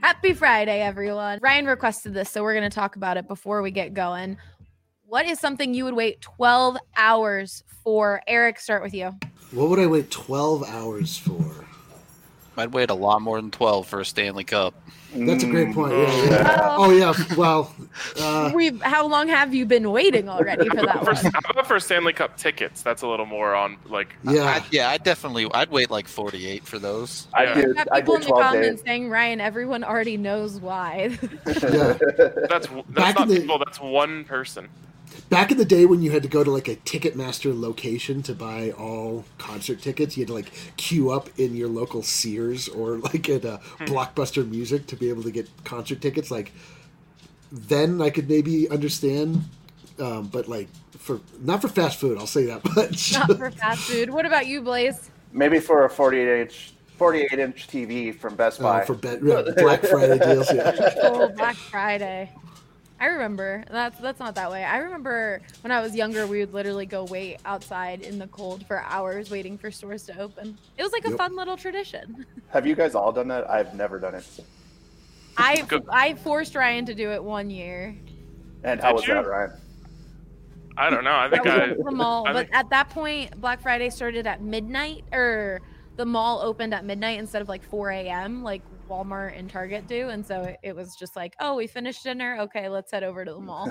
Happy Friday, everyone. Ryan requested this, so we're going to talk about it before we get going. What is something you would wait 12 hours for? Eric, start with you. What would I wait 12 hours for? I'd wait a lot more than 12 for a Stanley Cup. That's a great point. Yeah. Oh, yeah. Well, how long have you been waiting already for that one? How about for Stanley Cup tickets? That's a little more on, like... Yeah. I'd wait like 48 for those. I do. People in the comments saying, Ryan, everyone already knows why. Yeah. That's not people, that's one person. Back in the day when you had to go to like a Ticketmaster location to buy all concert tickets, you had to like queue up in your local Sears or like at Blockbuster Music to be able to get concert tickets. Like then I could maybe understand, but like not for fast food, I'll say that much. Not for fast food. What about you, Blaze? Maybe for a 48-inch TV from Best Buy. For Black Friday deals. Yeah. Oh, Black Friday. I remember. That's not that way. I remember when I was younger, we would literally go wait outside in the cold for hours waiting for stores to open. It was like a fun little tradition. Have you guys all done that? I've never done it. I forced Ryan to do it one year. And how was that, Ryan? I don't know. I think the mall. But at that point, Black Friday started at midnight, or the mall opened at midnight instead of like 4 a.m. like Walmart and Target do, and so it was just like, oh, we finished dinner, okay, let's head over to the mall.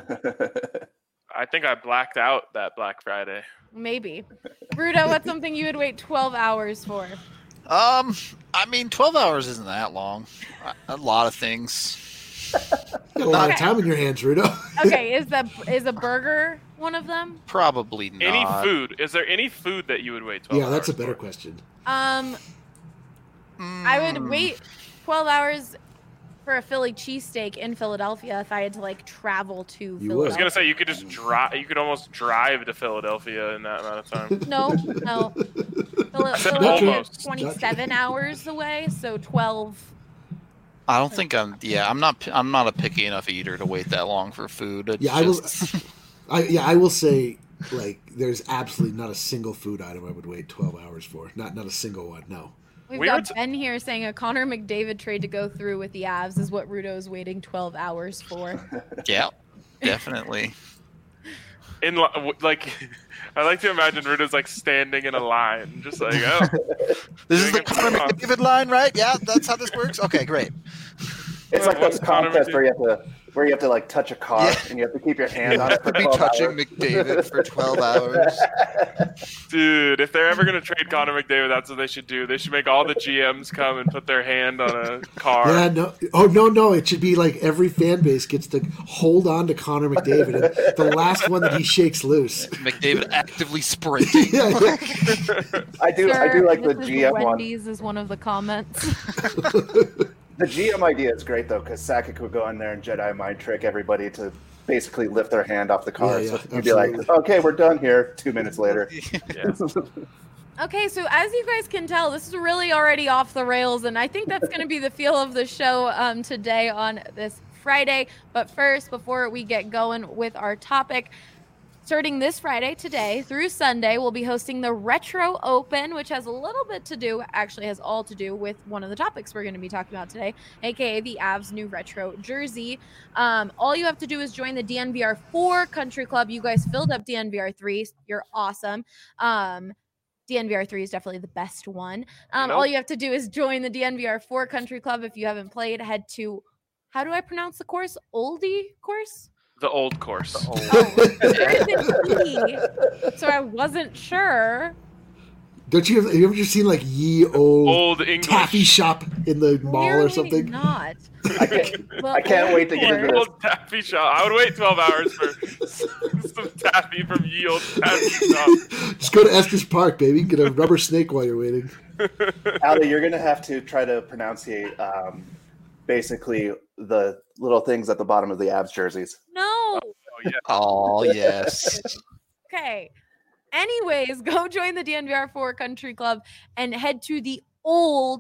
I think I blacked out that Black Friday. Maybe. Rudo, what's something you would wait 12 hours for? I mean, 12 hours isn't that long. A lot of things. A lot of time in your hands, Rudo. Okay, is a burger one of them? Probably not. Any food? Is there any food that you would wait 12 hours? Yeah, that's a better question. I would wait 12 hours for a Philly cheesesteak in Philadelphia if I had to like travel to Philadelphia. I was gonna say you could just drive. You could almost drive to Philadelphia in that amount of time. No. Philadelphia is 27 hours away, so 12. I don't think I'm not a picky enough eater to wait that long for food. I will say, like, there's absolutely not a single food item I would wait 12 hours for. Not a single one. No. We've got Ben here saying a Connor McDavid trade to go through with the Avs is what Rudo's waiting 12 hours for. Yeah, definitely. I like to imagine Rudo's like standing in a line, just like, oh. This is the Connor McDavid line, right? Yeah, that's how this works? Okay, great. It's like those contests where you have to like touch a car and you have to keep your hand on it for 12 touching hours. McDavid for 12 hours. Dude, if they're ever going to trade Connor McDavid, that's what they should do. They should make all the GMs come and put their hand on a car. Yeah, no. Oh, no. It should be like every fan base gets to hold on to Connor McDavid. And the last one that he shakes loose. McDavid actively sprinting. I do like the GM one. Wendy's is one of the comments. The GM idea is great, though, because Sakic would go in there and Jedi mind trick everybody to basically lift their hand off the car. Yeah, so you'd be like, okay, we're done here 2 minutes later. Okay, so as you guys can tell, this is really already off the rails, and I think that's going to be the feel of the show today on this Friday. But first, before we get going with our topic, starting this Friday, today, through Sunday, we'll be hosting the Retro Open, which has a little bit to do, actually has all to do with one of the topics we're going to be talking about today, aka the Avs' new retro jersey. All you have to do is join the DNVR 4 Country Club. You guys filled up DNVR 3. You're awesome. DNVR 3 is definitely the best one. All you have to do is join the DNVR 4 Country Club. If you haven't played, head to, how do I pronounce the course? Oldie course? The old course. There is an E, so I wasn't sure. Have you ever just seen like ye old English taffy shop in the mall or something? Not. I can't wait to get into this. Old taffy shop. I would wait 12 hours for some taffy from ye old taffy shop. Just go to Estes Park, baby. Get a rubber snake while you're waiting. Ali, you're going to have to try to pronunciate basically the little things at the bottom of the Avs jerseys. No. Oh, yes. Okay. Anyways, go join the DNVR 4 Country Club and head to the old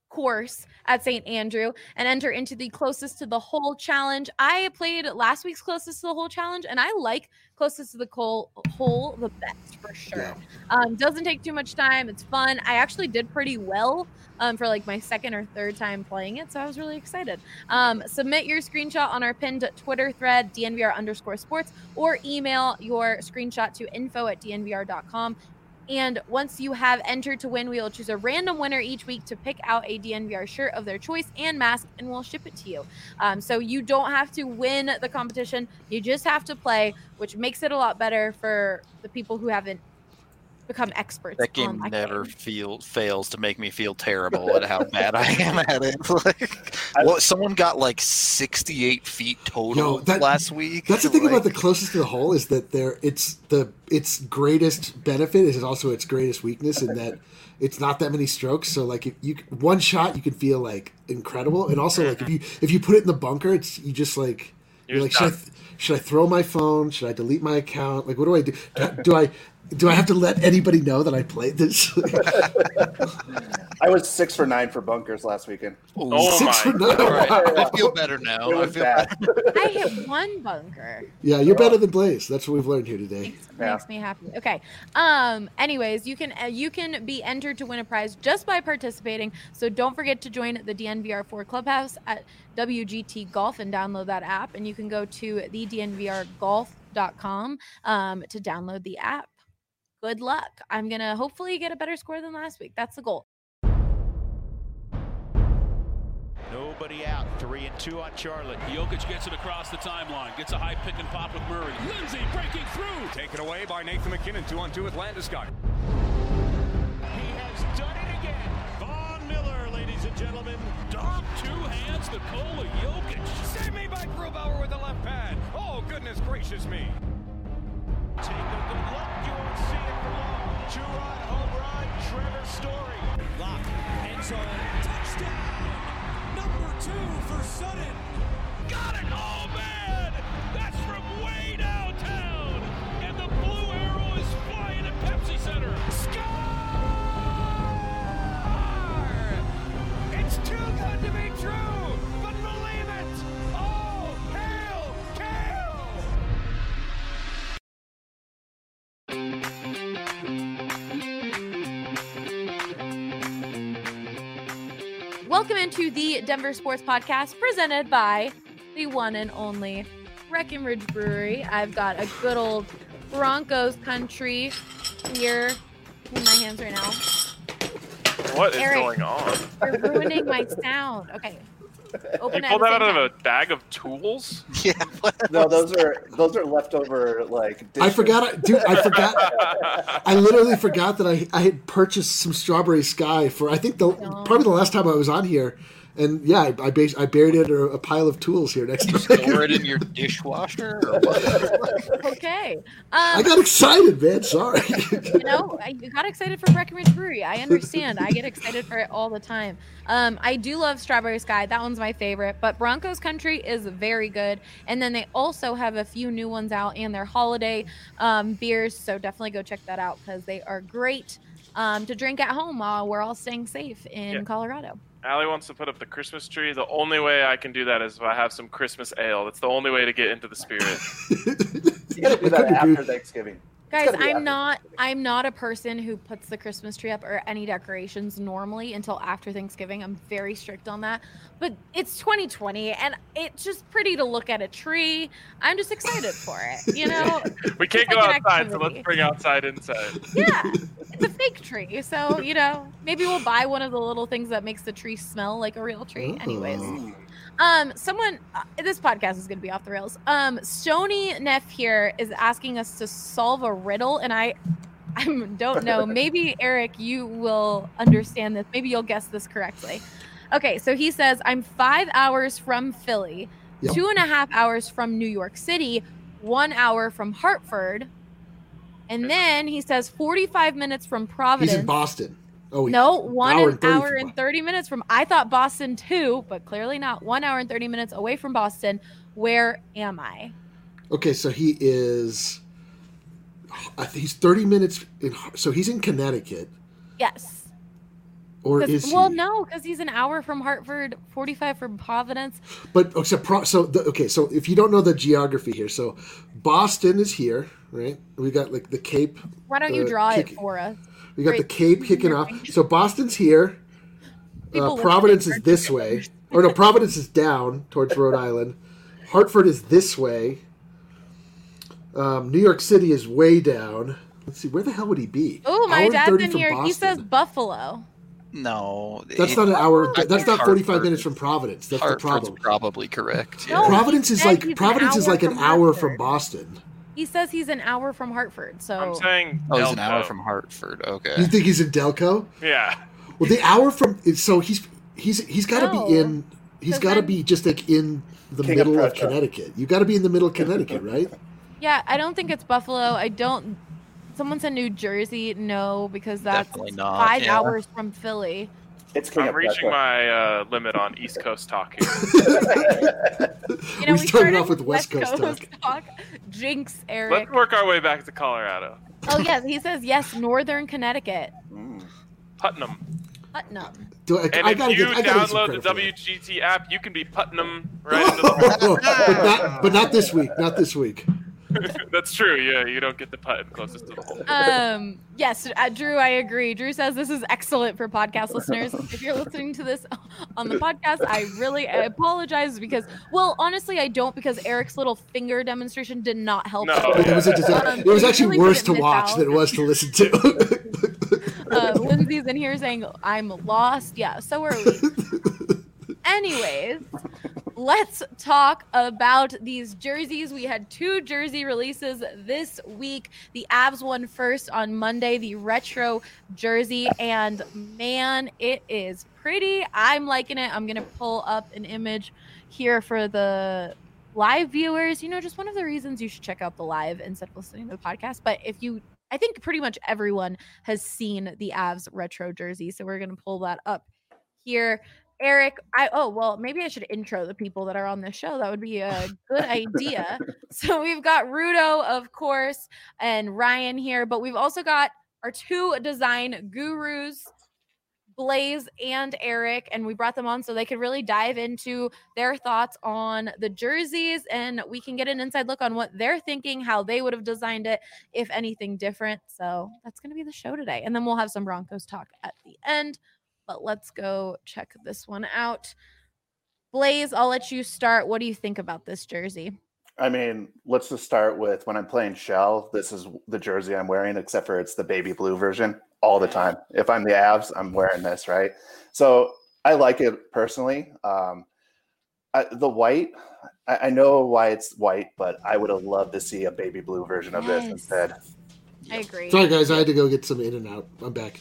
course at St. Andrew and enter into the closest to the hole challenge. I played last week's closest to the hole challenge, and I like closest to the hole the best for sure. Doesn't take too much time. It's fun. I actually did pretty well for like my second or third time playing it, so I was really excited. Submit your screenshot on our pinned Twitter thread, DNVR_sports, or email your screenshot to info@dnvr.com. And once you have entered to win, we will choose a random winner each week to pick out a DNVR shirt of their choice and mask, and we'll ship it to you. So you don't have to win the competition. You just have to play, which makes it a lot better for the people who haven't become experts. That game never fails to make me feel terrible at how bad I am at it. Someone got like 68 feet total last week. That's the thing about the closest to the hole is that its greatest benefit is also its greatest weakness in that it's not that many strokes. So like if one shot you can feel like incredible, and also like if you put it in the bunker, you're like should I throw my phone? Should I delete my account? Like what do I do? Do I have to let anybody know that I played this? I was 6 for 9 for bunkers last weekend. Oh 6 for 9. Right. I feel better now. I hit one bunker. Yeah, you're better than Blaze. That's what we've learned here today. Makes me happy. Okay. Anyways, you can be entered to win a prize just by participating. So don't forget to join the DNVR4 Clubhouse at WGT Golf and download that app. And you can go to thednvrgolf.com to download the app. Good luck. I'm going to hopefully get a better score than last week. That's the goal. Nobody out. 3 and 2 on Charlotte. Jokic gets it across the timeline. Gets a high pick and pop with Murray. Lindsay breaking through. Taken away by Nathan McKinnon. 2-on-2 with Landeskog. He has done it again. Von Miller, ladies and gentlemen. Dog 2 hands Nikola Jokic. Saved me by Grubauer with the left pad. Oh, goodness gracious me. Take a good look. You won't see it for long. 2-run home run. Trevor Story. Lock. End zone. Touchdown. Number 2 for Sutton. Got it. Oh, man. That's from way downtown. And the blue arrow is flying at Pepsi Center. Score! It's too good to be true. But believe it. Oh, hail, Kale. Welcome into the Denver Sports Podcast presented by the one and only Breckenridge Brewery. I've got a good old Broncos country here in my hands right now. What is Eric, going on? You're ruining my sound. Okay. Open You pulled that out of a bag of tools? Yeah. No, those are leftover like. I forgot, dude. I forgot. I literally forgot that I had purchased some Strawberry Sky for I think probably the last time I was on here, and yeah, I buried it under a pile of tools here next to me. Store it in your dishwasher. Or what? Okay. I got excited, man. Sorry. You got excited for Breckenridge Brewery. I understand. I get excited for it all the time. I do love Strawberry Sky. That one's my favorite. But Broncos Country is very good. And then they also have a few new ones out and their holiday beers. So definitely go check that out because they are great to drink at home while we're all staying safe in Colorado. Allie wants to put up the Christmas tree. The only way I can do that is if I have some Christmas ale. That's the only way to get into the spirit. You gotta do that after Thanksgiving. Guys, I'm not a person who puts the Christmas tree up or any decorations normally until after Thanksgiving. I'm very strict on that. But it's 2020 and it's just pretty to look at a tree. I'm just excited for it, you know? We can't go outside, so let's bring outside inside. Yeah. It's a fake tree. So, maybe we'll buy one of the little things that makes the tree smell like a real tree. Anyways. This podcast is going to be off the rails. Stony Neff here is asking us to solve a riddle, and I don't know. Maybe Eric, you will understand this. Maybe you'll guess this correctly. Okay, so he says, I'm 5 hours from Philly, 2.5 hours from New York City, 1 hour from Hartford, and then he says 45 minutes from Providence. He's in Boston. Oh, no, 1 hour and 30 minutes from. I thought Boston too, but clearly not. 1 hour and 30 minutes away from Boston. Where am I? Okay, so he is. I think he's 30 minutes in. So he's in Connecticut. Yes. Or is he? Well, no, because he's an hour from Hartford, 45 from Providence. But so if you don't know the geography here, so Boston is here, right? We got like the Cape. Why don't you draw it for us? We got the Cape kicking off. So Boston's here. Providence is this way. Or no, Providence is down towards Rhode Island. Hartford is this way. New York City is way down. Let's see, where the hell would he be? Oh, my dad's in here. Boston. He says Buffalo. No, that's not an hour. That's not 45 minutes from Providence. That's Hartford's the problem. Probably correct. Yeah. No, Providence is like an hour from Boston. He says he's an hour from Hartford. So I'm saying he's an hour from Hartford. Okay. You think he's in Delco? Yeah. Well, the hour from so he's got to be in. He's got to be just like in the middle of Connecticut. You got to be in the middle of Connecticut, right? Yeah, I don't think it's Buffalo. I don't. Someone said New Jersey. No, because that's 5 hours from Philly. I'm reaching my limit on East Coast talk here. We started off with West Coast talk. Jinx, Eric. Let's work our way back to Colorado. Oh, yes. He says, yes, Northern Connecticut. Putnam. And if you download the WGT app, you can be Putnam right into the but not this week. Not this week. That's true. Yeah, you don't get the putt closest to the hole. Yes, Drew, I agree. Drew says this is excellent for podcast listeners. If you're listening to this on the podcast, I apologize because, well, honestly, I don't, because Eric's little finger demonstration did not help. No. It was actually really worse to watch than it was to listen to. Lindsay's in here saying, I'm lost. Yeah, so are we. Anyways, let's talk about these jerseys. We had 2 jersey releases this week. The Avs won first on Monday, the retro jersey, and man, it is pretty. I'm liking it. I'm going to pull up an image here for the live viewers. Just one of the reasons you should check out the live instead of listening to the podcast. But I think pretty much everyone has seen the Avs retro jersey, so we're going to pull that up here. Eric, maybe I should intro the people that are on this show. That would be a good idea. So we've got Rudo, of course, and Ryan here, but we've also got our 2 design gurus, Blaze and Eric, and we brought them on so they could really dive into their thoughts on the jerseys, and we can get an inside look on what they're thinking, how they would have designed it, if anything different. So that's going to be the show today. And then we'll have some Broncos talk at the end. But let's go check this one out. Blaze, I'll let you start. What do you think about this jersey? I mean, let's just start with when I'm playing Shell, this is the jersey I'm wearing, except for it's the baby blue version all the time. If I'm the Avs, I'm wearing this, right? So I like it personally. The white, I know why it's white, but I would have loved to see a baby blue version of this instead. I agree. Sorry, guys. I had to go get some In-N-Out. I'm back.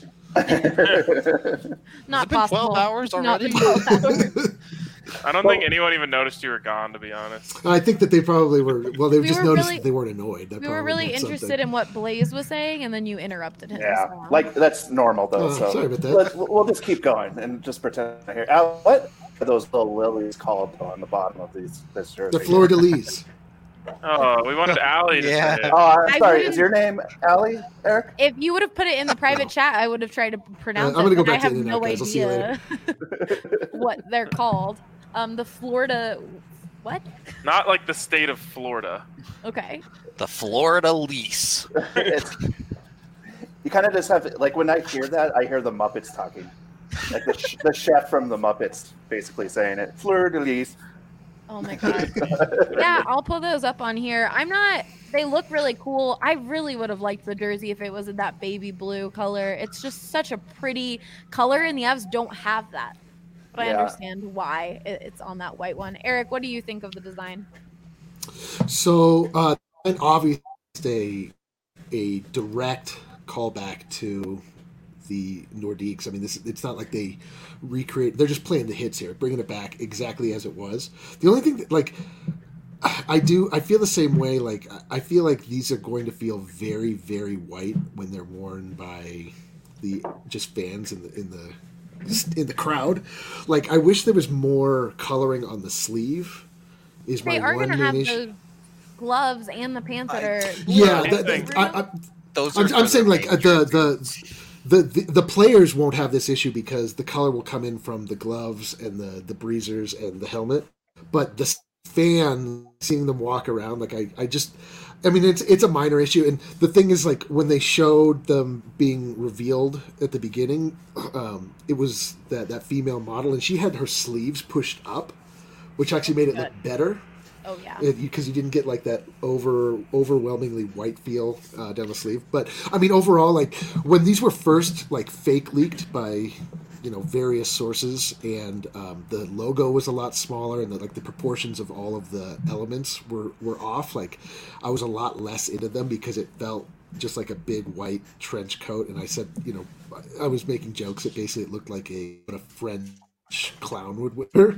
Not possible. 12 hours already? 12 hours. I don't think anyone even noticed you were gone, to be honest. I think that they probably were. Well, they just noticed that they weren't annoyed. We were really interested in what Blaze was saying, and then you interrupted him. Yeah, that's normal, though. So sorry about that. We'll just keep going and just pretend I hear. What are those little lilies called on the bottom of this jersey? The fleur-de-lis. Oh, we wanted Allie to say it. Oh, I'm sorry. Is your name Allie, Eric? If you would have put it in the private chat, I would have tried to pronounce it. I'm going to go back to the In-N-Out, guys. I'll see you later. What they're called. The Florida... What? Not like the state of Florida. Okay. The Fleur-de-Lis. You kind of just have... Like, when I hear that, I hear the Muppets talking. Like the chef from the Muppets basically saying it. Fleur-de-Lis. Oh my god. Yeah, I'll pull those up on here. They look really cool. I really would have liked the jersey if it was in that baby blue color. It's just such a pretty color, and the Avs don't have that. But I understand why it's on that white one. Eric, what do you think of the design? So, and obviously a direct callback to the Nordiques. I mean, it's not like they recreate. They're just playing the hits here, bringing it back exactly as it was. The only thing that, like, I feel the same way. Like, I feel like these are going to feel very, very white when they're worn by the just fans in the crowd. Like, I wish there was more coloring on the sleeve. Is they my are one going to have issue. those gloves and the pants that are yeah. I'm saying like the players won't have this issue because the color will come in from the gloves and the breezers and the helmet, but the fan seeing them walk around, like I mean, it's a minor issue. And the thing is, like, when they showed them being revealed at the beginning, it was that female model, and she had her sleeves pushed up, which actually made it look better. Oh, yeah. Because you didn't get, like, that overwhelmingly white feel down the sleeve. But, I mean, overall, like, when these were first, like, fake leaked by, various sources, and the logo was a lot smaller, and the proportions of all of the elements were off, like, I was a lot less into them because it felt just like a big white trench coat. And I said, I was making jokes that basically it looked like a French clown would wear.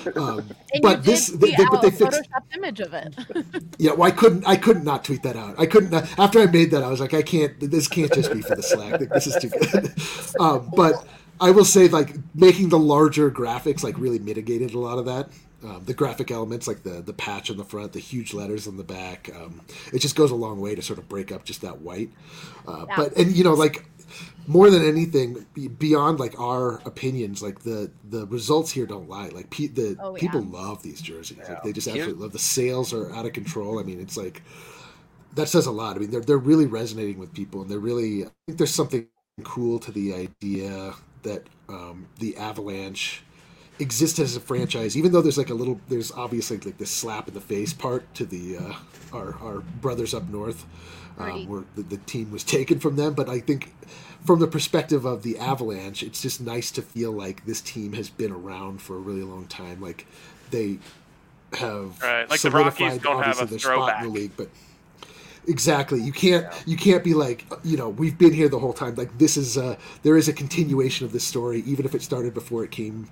But they fixed photoshopped image of it. Yeah, well, I couldn't not tweet that out. I couldn't after I made that, I was like, this can't just be for the Slack. Like, this is too good. But I will say, like, making the larger graphics, like, really mitigated a lot of that. The graphic elements, like the patch on the front, the huge letters on the back, it just goes a long way to sort of break up just that white. But like, more than anything, beyond, like, our opinions, like, the results here don't lie. Like, people love these jerseys. Yeah. Like, they just absolutely love. The sales are out of control. I mean, it's like, that says a lot. I mean, they're really resonating with people, and I think there's something cool to the idea that the Avalanche exists as a franchise, even though there's obviously, like, this slap in the face part to the our brothers up north, where the team was taken from them. But I think from the perspective of the Avalanche, it's just nice to feel like this team has been around for a really long time. Like, they have like the Rockies don't have a throwback in the league, but exactly, you can't be like, we've been here the whole time. Like, this is there is a continuation of this story, even if it started before it came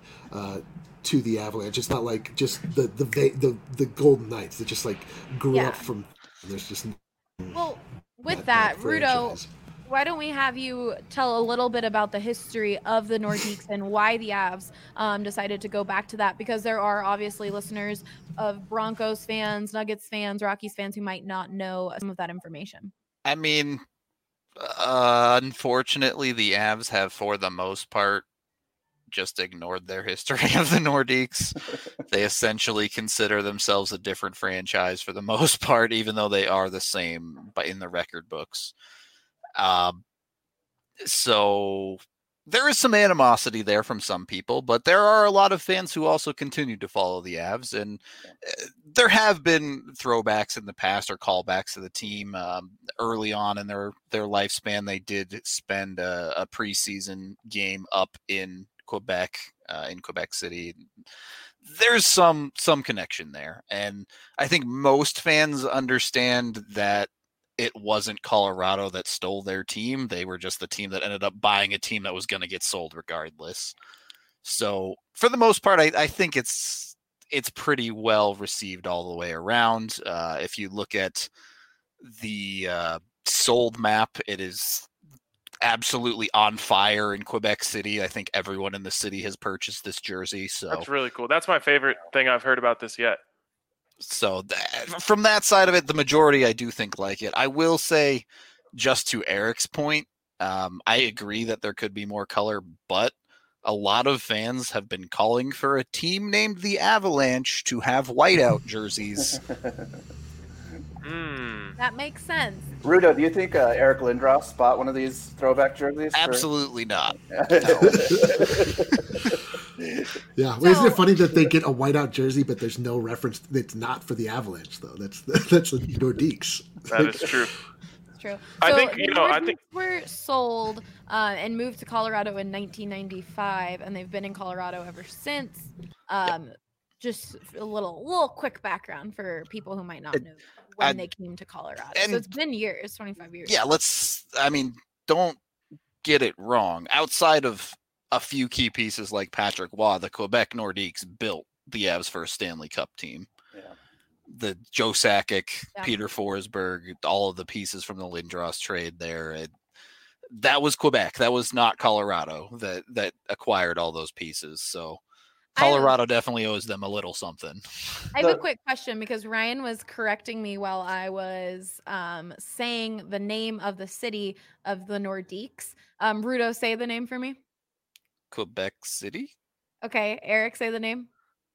to the Avalanche. It's not like just the Golden Knights that just, like, grew up from. There's just with that Rudo, why don't we have you tell a little bit about the history of the Nordiques and why the Avs decided to go back to that? Because there are obviously listeners of Broncos fans, Nuggets fans, Rockies fans who might not know some of that information. I mean, unfortunately, the Avs have, for the most part, just ignored their history of the Nordiques. They essentially consider themselves a different franchise for the most part, even though they are the same in the record books. So there is some animosity there from some people, but there are a lot of fans who also continue to follow the Avs, and there have been throwbacks in the past or callbacks to the team. Early on in their lifespan, they did spend a preseason game up in Quebec City. There's some connection there, and I think most fans understand that it wasn't Colorado that stole their team. They were just the team that ended up buying a team that was going to get sold regardless. So for the most part, I think it's pretty well received all the way around. If you look at the sold map, it is absolutely on fire in Quebec City. I think everyone in the city has purchased this jersey. So that's really cool. That's my favorite thing I've heard about this yet. So from that side of it, the majority I do think like it. I will say, just to Eric's point, I agree that there could be more color, but a lot of fans have been calling for a team named the Avalanche to have whiteout jerseys. That makes sense. Rudo, do you think Eric Lindros bought one of these throwback jerseys? Absolutely not. Yeah, well, isn't it funny that they get a whiteout jersey, but there's no reference? It's not for the Avalanche, though. That's the Nordiques. That is true. It's true. I So think the were sold and moved to Colorado in 1995, and they've been in Colorado ever since. Just a little quick background for people who might not know when they came to Colorado. So it's been years, 25 years. Yeah, don't get it wrong. Outside of a few key pieces like Patrick Waugh, the Quebec Nordiques built the Avs' first Stanley Cup team. Yeah. The Joe Sakic, Peter Forsberg, all of the pieces from the Lindros trade there. That was Quebec. That was not Colorado that acquired all those pieces. So Colorado definitely owes them a little something. I have a quick question because Ryan was correcting me while I was saying the name of the city of the Nordiques. Rudo, say the name for me. Quebec City? Okay, Eric, say the name.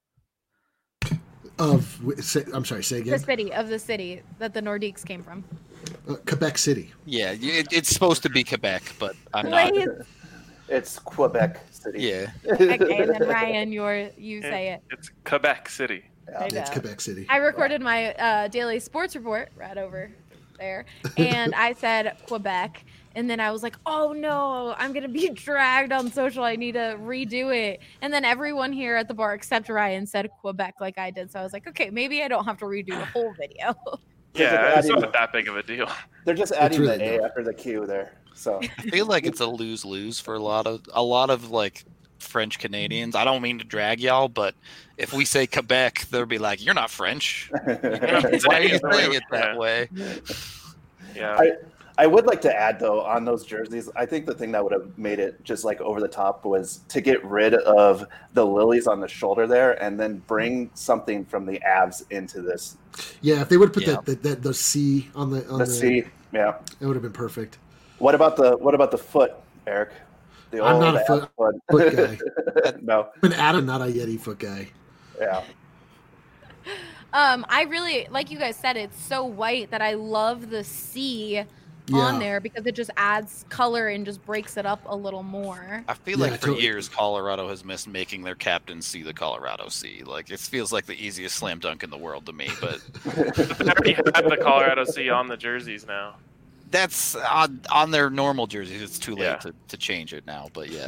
I'm sorry, say again. The city that the Nordiques came from. Quebec City. Yeah, it's supposed to be Quebec, but I'm not. It's Quebec City. Yeah. Okay, and then Ryan, you say it. It's Quebec City. Yeah, it's Quebec City. I recorded my daily sports report right over there, and I said Quebec, and then I was like, oh no, I'm gonna be dragged on social. I need to redo it. And then everyone here at the bar except Ryan said Quebec like I did, so I was like, okay, maybe I don't have to redo the whole video. Yeah, it's not that big of a deal. They're just adding the A after the Q there. So I feel like it's a lose-lose for a lot of like French Canadians. I don't mean to drag y'all, but if we say Quebec, they'll be like, "You're not French. Why are you saying it that way?" Yeah. I would like to add though on those jerseys. I think the thing that would have made it just like over the top was to get rid of the lilies on the shoulder there, and then bring something from the Avs into this. Yeah, if they would have put the C on the C, yeah, it would have been perfect. What about the foot, Eric? I'm not a foot guy. No, I'm an Adam, not a Yeti foot guy. Yeah. I really, like you guys said, it's so white that I love the C on there because it just adds color and just breaks it up a little more. I feel like for years Colorado has missed making their captains see the Colorado C. Like it feels like the easiest slam dunk in the world to me, but they already have the Colorado C on the jerseys now. That's on their normal jerseys. It's too late to change it now, but yeah.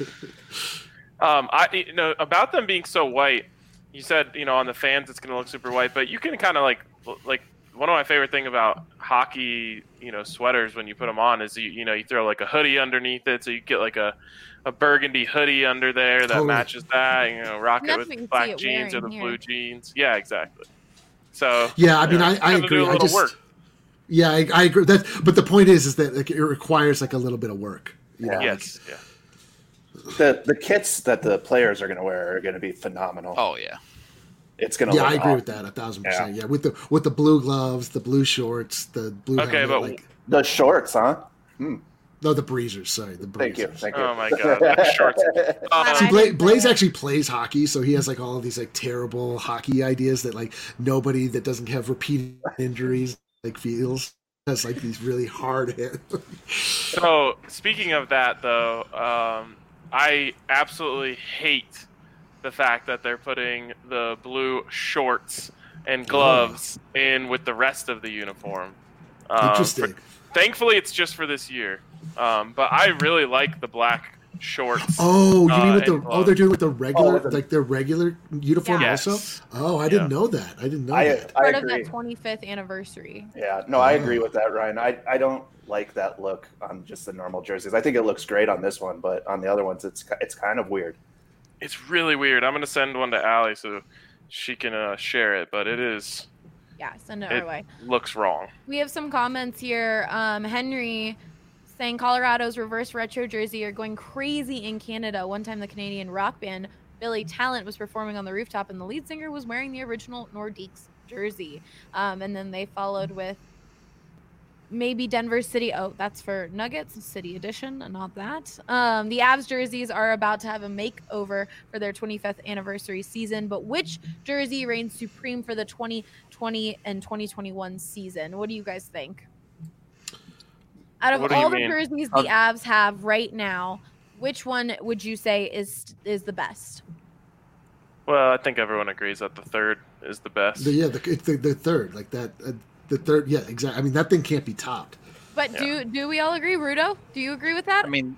About them being so white, you said, on the fans it's going to look super white, but you can kind of like one of my favorite thing about hockey, sweaters when you put them on is you throw like a hoodie underneath it, so you get like a burgundy hoodie under there that matches that. Rock it with black jeans or the blue jeans. Yeah, exactly. So yeah, I mean, I agree. Yeah, I agree. But the point is that like, it requires like a little bit of work. Yes. Yeah. The kits that the players are going to wear are going to be phenomenal. Oh yeah. It's gonna. Yeah, I agree with that 1,000%. Yeah, with the blue gloves, the blue shorts, the blue. Okay, helmet, but the shorts, huh? No, the breezers. Sorry, the breezers. Thank you. Oh my god, the shorts. See, Blaze actually plays hockey, so he has like all of these like terrible hockey ideas that like nobody that doesn't have repeated injuries like feels. Has like these really hard hits. So speaking of that, though, I absolutely hate the fact that they're putting the blue shorts and gloves in with the rest of the uniform. Interesting. Thankfully, it's just for this year. But I really like the black shorts. Oh, you mean with they're doing with the regular, like their regular uniform also? Oh, I didn't know that. I didn't know that. Part of that 25th anniversary. Yeah, no, I agree with that, Ryan. I don't like that look on just the normal jerseys. I think it looks great on this one, but on the other ones, it's kind of weird. It's really weird. I'm going to send one to Allie so she can share it, but it is. Yeah, send it our way. Looks wrong. We have some comments here. Henry saying Colorado's reverse retro jersey are going crazy in Canada. One time the Canadian rock band Billy Talent was performing on the rooftop and the lead singer was wearing the original Nordiques jersey. And then they followed with maybe Denver City. Oh, that's for Nuggets City Edition, not that. The Avs jerseys are about to have a makeover for their 25th anniversary season, but which jersey reigns supreme for the 2020 and 2021 season? What do you guys think? Out of all the jerseys the Avs have right now, which one would you say is the best? Well, I think everyone agrees that the third is the best. It's the third, like that. The third, yeah, exactly. I mean, that thing can't be topped. But do we all agree, Rudo? Do you agree with that? I mean,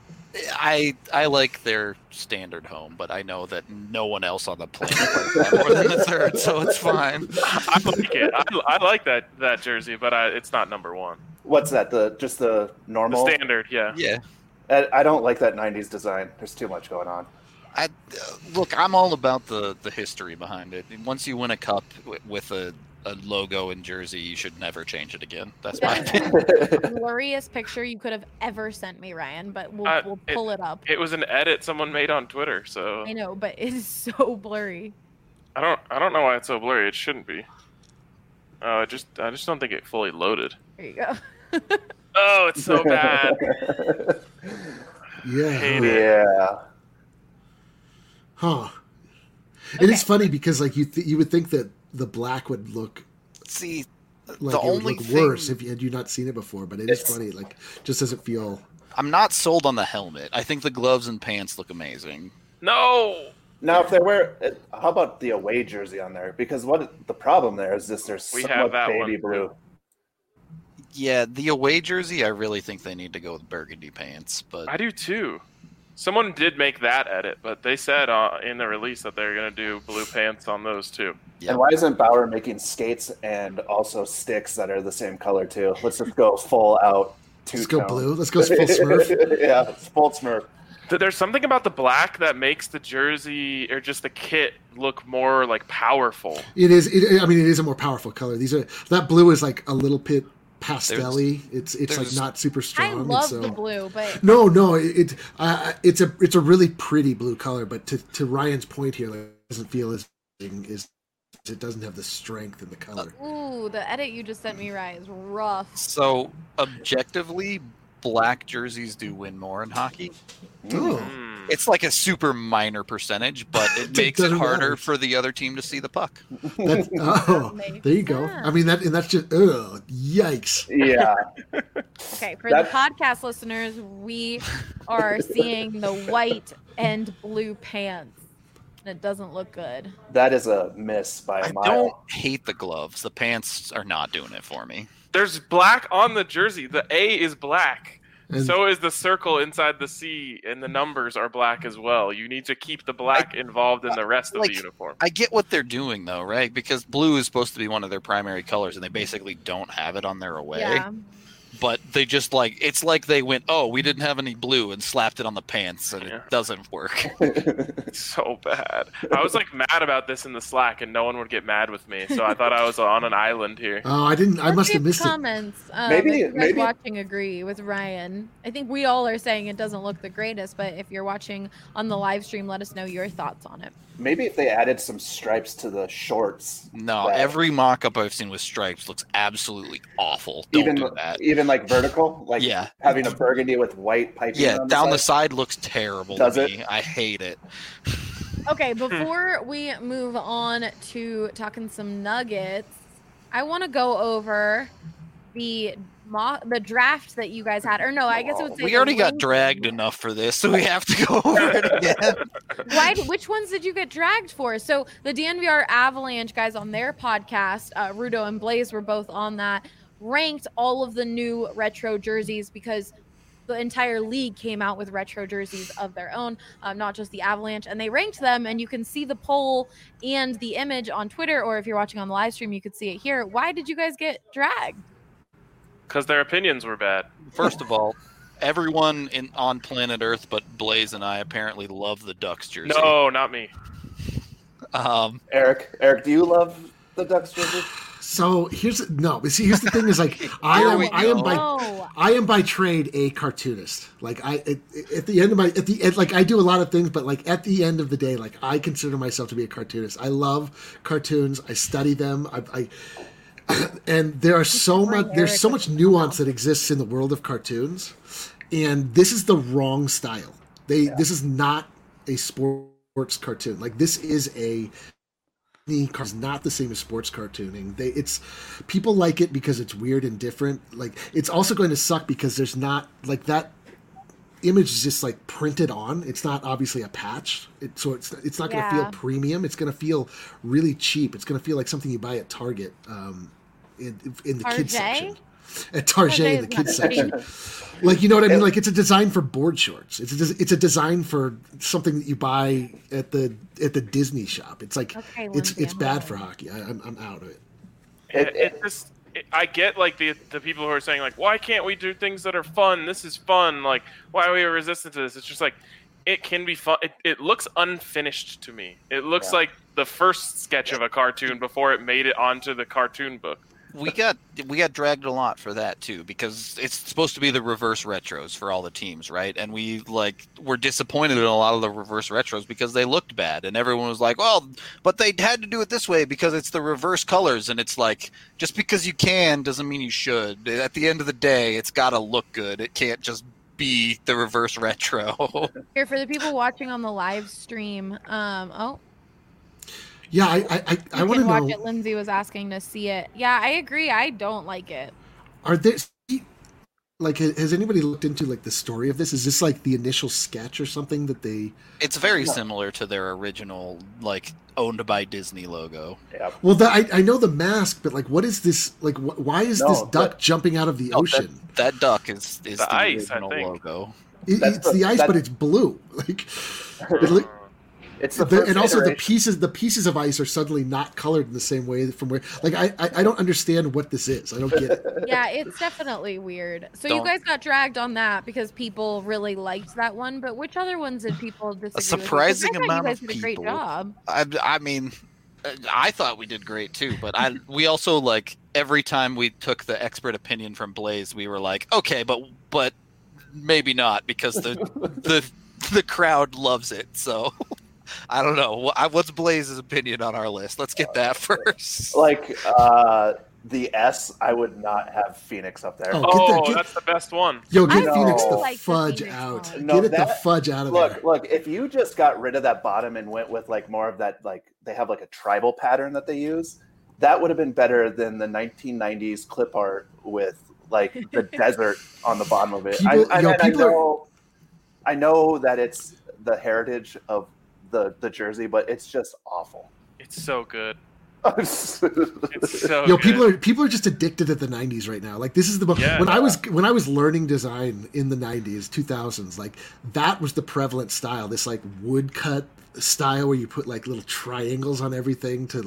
I like their standard home, but I know that no one else on the planet likes that more than the third, so it's fine. I like it. I like that jersey, but it's not number one. What's that? Just the normal? The standard, yeah. Yeah. I don't like that 90s design. There's too much going on. Look, I'm all about the history behind it. Once you win a cup with a a logo and jersey, you should never change it again. That's That my is opinion. the blurriest picture you could have ever sent me, Ryan, but we'll pull it up. It was an edit someone made on Twitter, so I know, but it is so blurry. I don't know why it's so blurry. It shouldn't be. I just don't think it fully loaded. There you go. Oh, it's so bad. Yeah. Hate it. Yeah. Huh. It is funny because like you would think that the black would look See, like the it would only look thing, worse if you had not seen it before, but it is It's- funny. Like, just doesn't feel. I'm not sold on the helmet. I think the gloves and pants look amazing. No. Now, if there were, how about the away jersey on there? Because what the problem there is just there's We so have much that baby one, too. blue. Yeah, the away jersey, I really think they need to go with burgundy pants. But I do too. Someone did make that edit, but they said in the release that they're going to do blue pants on those too. yeah, And why isn't Bauer making skates and also sticks that are the same color too? Let's just go full out Let's two-tone. go blue. Let's go full Smurf. Yeah, it's full Smurf. There's something about the black that makes the jersey or just the kit look more like powerful. It is. I mean, it is a more powerful color. That blue is like a little bit pastel-y. It's like there's- not super strong. I and love so- the blue, but No, it's a really pretty blue color. But to Ryan's point here, like, it doesn't feel as it doesn't have the strength in the color. ooh, the edit you just sent me, Ryan, is rough. so objectively, black jerseys do win more in hockey. Oh, Hmm. It's like a super minor percentage, but it It makes it doesn't harder matter. for the other team to see the puck. Makes there you go. sense. I mean that's just yikes. Yeah, Okay, for That- the podcast listeners, we are seeing the white and blue pants. And it doesn't look good. that is a miss by I a mile. don't hate the gloves. The pants are not doing it for me. There's black on the jersey. The A is black. And So is the circle inside the C, and the numbers are black as well. You need to keep the black involved in the rest of like- the uniform. I get what they're doing though, right? Because blue is supposed to be one of their primary colors, and they basically don't have it on their away. Yeah. But they just it's like they went, oh, we didn't have any blue, and slapped it on the pants, and Yeah. it doesn't work. It's so bad. I was like mad about this in the Slack, and no one would get mad with me. So I thought I was on an island here. oh, I didn't. I Let's must see have if missed it. comments. Maybe- if you guys maybe- watching agree with Ryan. I think we all are saying it doesn't look the greatest, but if you're watching on the live stream, let us know your thoughts on it. Maybe if they added some stripes to the shorts. No, that- every mock-up I've seen with stripes looks absolutely awful. Don't even do that. even like vertical, like Yeah. having a burgundy with white piping. Yeah, on down the side. side looks terrible Does to it? me. I hate it. Okay, before we move on to talking some Nuggets, I want to go over the draft that you guys had. Or no, I guess it would say We the already got ranking. dragged enough for this, so we have to go over it again. Which ones did you get dragged for? So the DNVR Avalanche guys on their podcast, Rudo and Blaze were both on that, ranked all of the new retro jerseys because the entire league came out with retro jerseys of their own, not just the Avalanche, and they ranked them. And you can see the poll and the image on Twitter, or if you're watching on the live stream, you could see it here. Why did you guys get dragged? Because their opinions were bad. First of all, everyone on planet Earth but Blaze and I apparently love the Ducks jersey. No, not me. Eric, do you love the Ducks jersey? So here's the thing is like I Here we am go. I am by trade a cartoonist. Like at the end like I do a lot of things, but like at the end of the day, like I consider myself to be a cartoonist. I love cartoons. I study them. I and there's so much nuance that exists in the world of cartoons, and this is the wrong style. This is not a sports cartoon. Like this is is not the same as sports cartooning. It's people like it because it's weird and different. Like it's also going to suck because there's not like that image is just like printed on. It's not obviously a patch. So it's not going to feel premium. It's going to feel really cheap. It's going to feel like something you buy at Target in the kids section. At Target in the kids section. Like, you know what I mean? Like, it's a design for board shorts. It's a design for something that you buy at the Disney shop. It's like it's bad for hockey. I'm out of it. I get like the people who are saying like, why can't we do things that are fun? This is fun. Like, why are we resistant to this? It's just like it can be fun. It looks unfinished to me. It looks Yeah. like the first sketch of a cartoon before it made it onto the cartoon book. We got dragged a lot for that too, because it's supposed to be the reverse retros for all the teams, right? And we were disappointed in a lot of the reverse retros because they looked bad, and everyone was like, "Well, but they had to do it this way because it's the reverse colors." And it's like, just because you can doesn't mean you should. At the end of the day, it's got to look good. It can't just be the reverse retro. Here for the people watching on the live stream. Yeah, I You want to can watch know. it. Lindsay was asking to see it. Yeah, I agree. I don't like it. Are there has anybody looked into like the story of this? Is this like the initial sketch or something that they? It's very similar to their original, owned by Disney logo. Yeah. Well, I know the mask, but like, what is this? Like, why is this duck jumping out of the ocean? That duck is the ice, I original think. logo. It's the ice, but it's blue. Like, It's the first and also iteration. the pieces of ice are suddenly not colored in the same way from where. Like, I don't understand what this is. I don't get it. Yeah, it's definitely weird. So you Don't- guys got dragged on that because people really liked that one. But which other ones did people disagree with? A surprising Because I thought amount you of guys did a great people. job. I mean, I thought we did great too, but we also every time we took the expert opinion from Blaze, we were like, okay, but maybe not, because the crowd loves it. So I don't know. What's Blaze's opinion on our list? Let's get that first. The S, I would not have Phoenix up there. Oh, That's the best one. Yo, I get Phoenix really the like the fudge Phoenix out. one. No, Get it the that- fudge out of there. Look, if you just got rid of that bottom and went with more of that, they have a tribal pattern that they use, that would have been better than the 1990s clip art with the desert on the bottom of it. I know that it's the heritage of the jersey, but it's just awful. It's so good. It's It's so Yo, good. people are just addicted to the '90s right now. Like, this is the Yeah. when I was learning design in the '90s, 2000s. Like, that was the prevalent style. This woodcut style where you put little triangles on everything to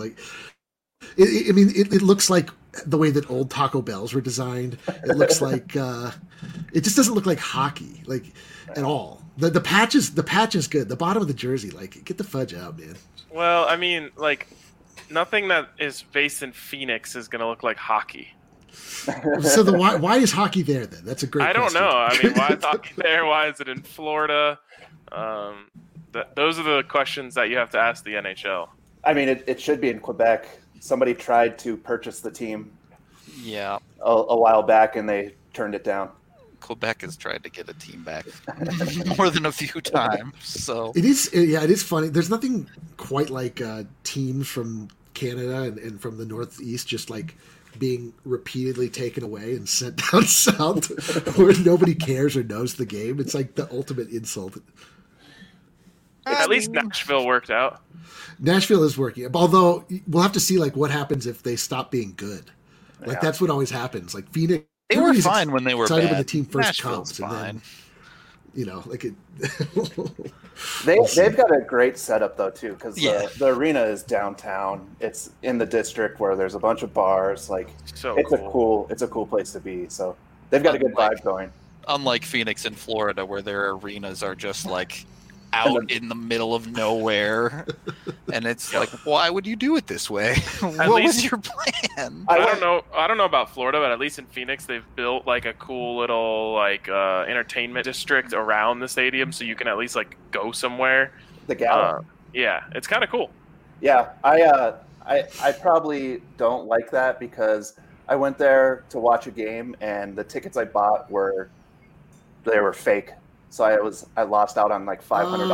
It looks like the way that old Taco Bells were designed. It looks like it just doesn't look like hockey at all. The patch is good. The bottom of the jersey, get the fudge out, man. Well, I mean, nothing that is based in Phoenix is going to look like hockey. So why is hockey there then? That's a great. I don't question. know. I mean, why is hockey there? Why is it in Florida? Those are the questions that you have to ask the NHL. I mean, it should be in Quebec. Somebody tried to purchase the team Yeah, a while back, and they turned it down. Quebec has tried to get a team back more than a few times. So It is funny. There's nothing quite like teams from Canada and from the Northeast just being repeatedly taken away and sent down south where nobody cares or knows the game. It's like the ultimate insult. At least Nashville worked out. Nashville is working, although we'll have to see what happens if they stop being good. Yeah. That's what always happens. Phoenix, they were everybody's fine when they were excited bad. when the team first Nashville's comes, and fine. then They've got a great setup though too, because Yeah. the arena is downtown. It's in the district where there's a bunch of bars. So It's a cool place to be. So they've got a good vibe going. Unlike Phoenix and Florida, where their arenas are just out in the middle of nowhere, and it's why would you do it this way? What was least- your plan? I don't know about Florida, but at least in Phoenix, they've built a cool little entertainment district around the stadium, so you can at least go somewhere. The Gala. Yeah, it's kind of cool. Yeah, I probably don't like that because I went there to watch a game and the tickets I bought were fake. So I lost out on $500.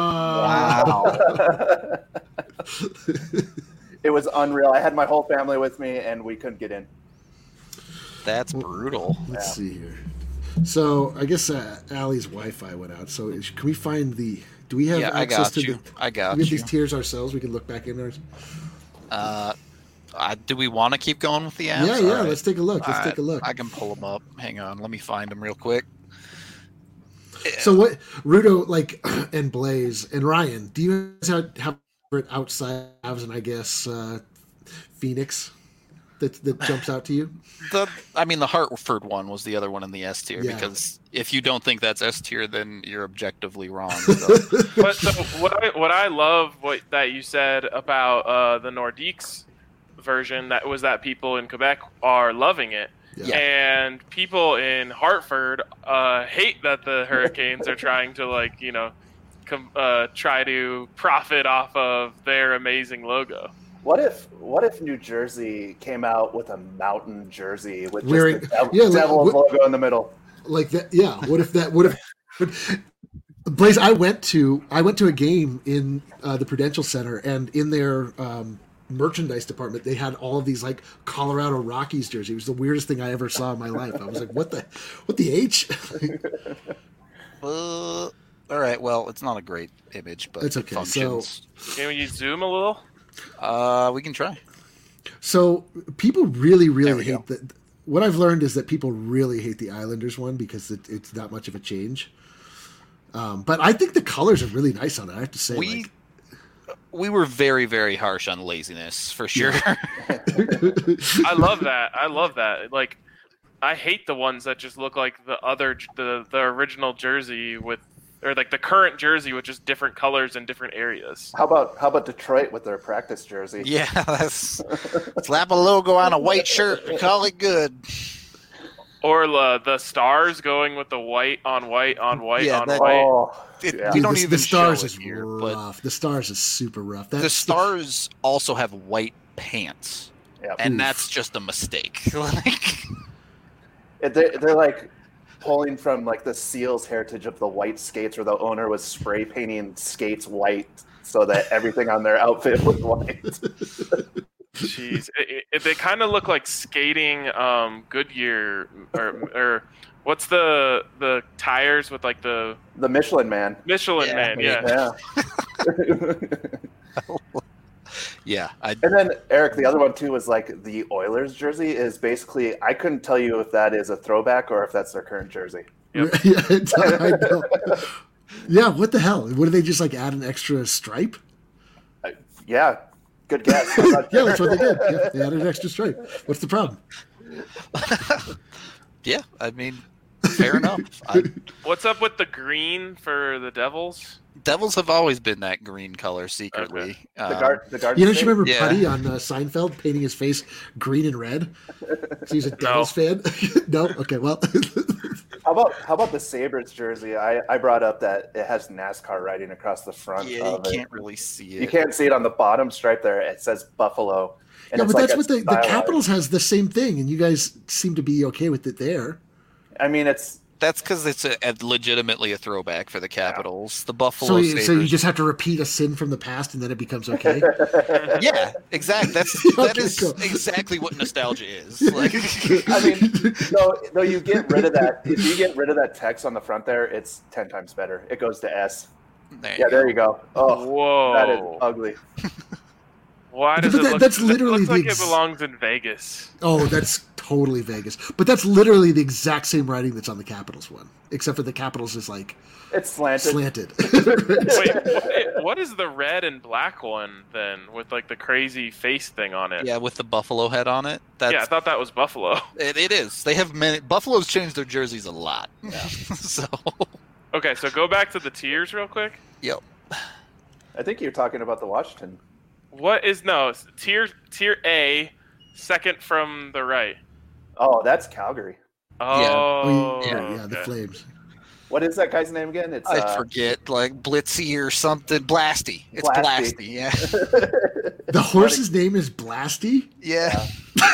Wow. It was unreal. I had my whole family with me and we couldn't get in. That's brutal. Let's see here. So I guess Allie's Wi-Fi went out. So can we find the? Do we have Yeah, I access got to you. I we got have you. these tiers ourselves? We can look back in ours. Do we want to keep going with the apps? Yeah. All right. Let's take a look. Let's All take a right, look. I can pull them up. Hang on. Let me find them real quick. So what, Rudo, and Blaze and Ryan? Do you guys have it outside Avs and I guess Phoenix? that jumps out to you? The Hartford one was the other one in the S tier, Yeah. because if you don't think that's S tier, then you're objectively wrong. So. But so what I love that you said about the Nordiques version that people in Quebec are loving it. Yeah. And people in Hartford hate that the Hurricanes are trying to try to profit off of their amazing logo. What if New Jersey came out with a mountain jersey with just Wearing- the yeah, Devils what- logo in the middle? Like that, yeah. What if Blaze, I went to a game in the Prudential Center, and in their merchandise department they had all of these like Colorado Rockies jerseys. It was the weirdest thing I ever saw in my life. I was like, what the H? All right, well, it's not a great image, but It's it okay. functions. Can you zoom a little? We can try. So people really, There really we hate that. What I've learned is that people really hate the Islanders one because it's not much of a change. But I think the colors are really nice on it. I have to say, We were very, very harsh on laziness for sure. I love that. Like, I hate the ones that just look like the original jersey or like the current jersey with just different colors in different areas. How about Detroit with their practice jersey? Yeah, slap a logo on a white shirt and call it good. Or the stars going with the white on white on white Yeah, on that- white. Oh, We yeah. don't the even Stars show is it here, but rough. The Stars is super rough. the Stars also have white pants, Yeah. and Oof. that's just a mistake. Like, They're like pulling from like the Seals heritage of the white skates, where the owner was spray painting skates white so that everything on their outfit was white. Jeez, they kind of look like skating Goodyear or what's the tires with like the The Michelin Man. Michelin Yeah. Man? Yeah. Yeah. yeah, And then Eric, the other one too was like the Oilers jersey is basically, I couldn't tell you if that is a throwback or if that's their current jersey. Yep. I know. Yeah, what the hell? What, do they just like add an extra stripe? Yeah, good guess. I'm not Yeah, that's sure. what they did. Yeah, they added an extra stripe. What's the problem? yeah. I mean, fair enough. What's up with the green for the Devils? Devils have always been that green color secretly. The Garden You don't State? you remember Yeah. Putty on Seinfeld painting his face green and red? So he's a Devils fan. No, okay, well, How about the Sabres jersey? I brought up that it has NASCAR writing across the front Yeah, you of it. can't really see it. You can't see it on the bottom stripe there. It says Buffalo. And yeah, it's but like that's a what the stylized- Capitals has the same thing, and you guys seem to be okay with it there. I mean, it's That's because it's legitimately a throwback for the Capitals. The So, Buffalo you, so you Sabres. just have to repeat a sin from the past, and then it becomes okay. Yeah, exactly. That Okay, is cool. exactly what nostalgia is. Like, I mean, no, you get rid of that. If you get rid of that text on the front there, it's 10 times better. It goes to S. Yeah, there you go. Oh, Whoa, that is ugly. Why does But it that- look? that's it literally looks the like it ex- belongs in Vegas. Oh, that's totally Vegas. But that's literally the exact same writing that's on the Capitals one, except for the Capitals is like It's slanted. slanted. Wait, what is the red and black one then with like the crazy face thing on it? yeah, with the buffalo head on it. That's, Yeah, I thought that was Buffalo. it is. They have many. Buffalo's changed their jerseys a lot. So, Okay, so go back to the tiers real quick. yep. I think you're talking about the Washington. What is tier A, second from the right? Oh, that's Calgary. Oh, yeah, the okay. Flames. What is that guy's name again? It's I forget, like Blitzy or something. Blasty. It's Blasty. Blasty. Yeah. The horse's name is Blasty? Yeah.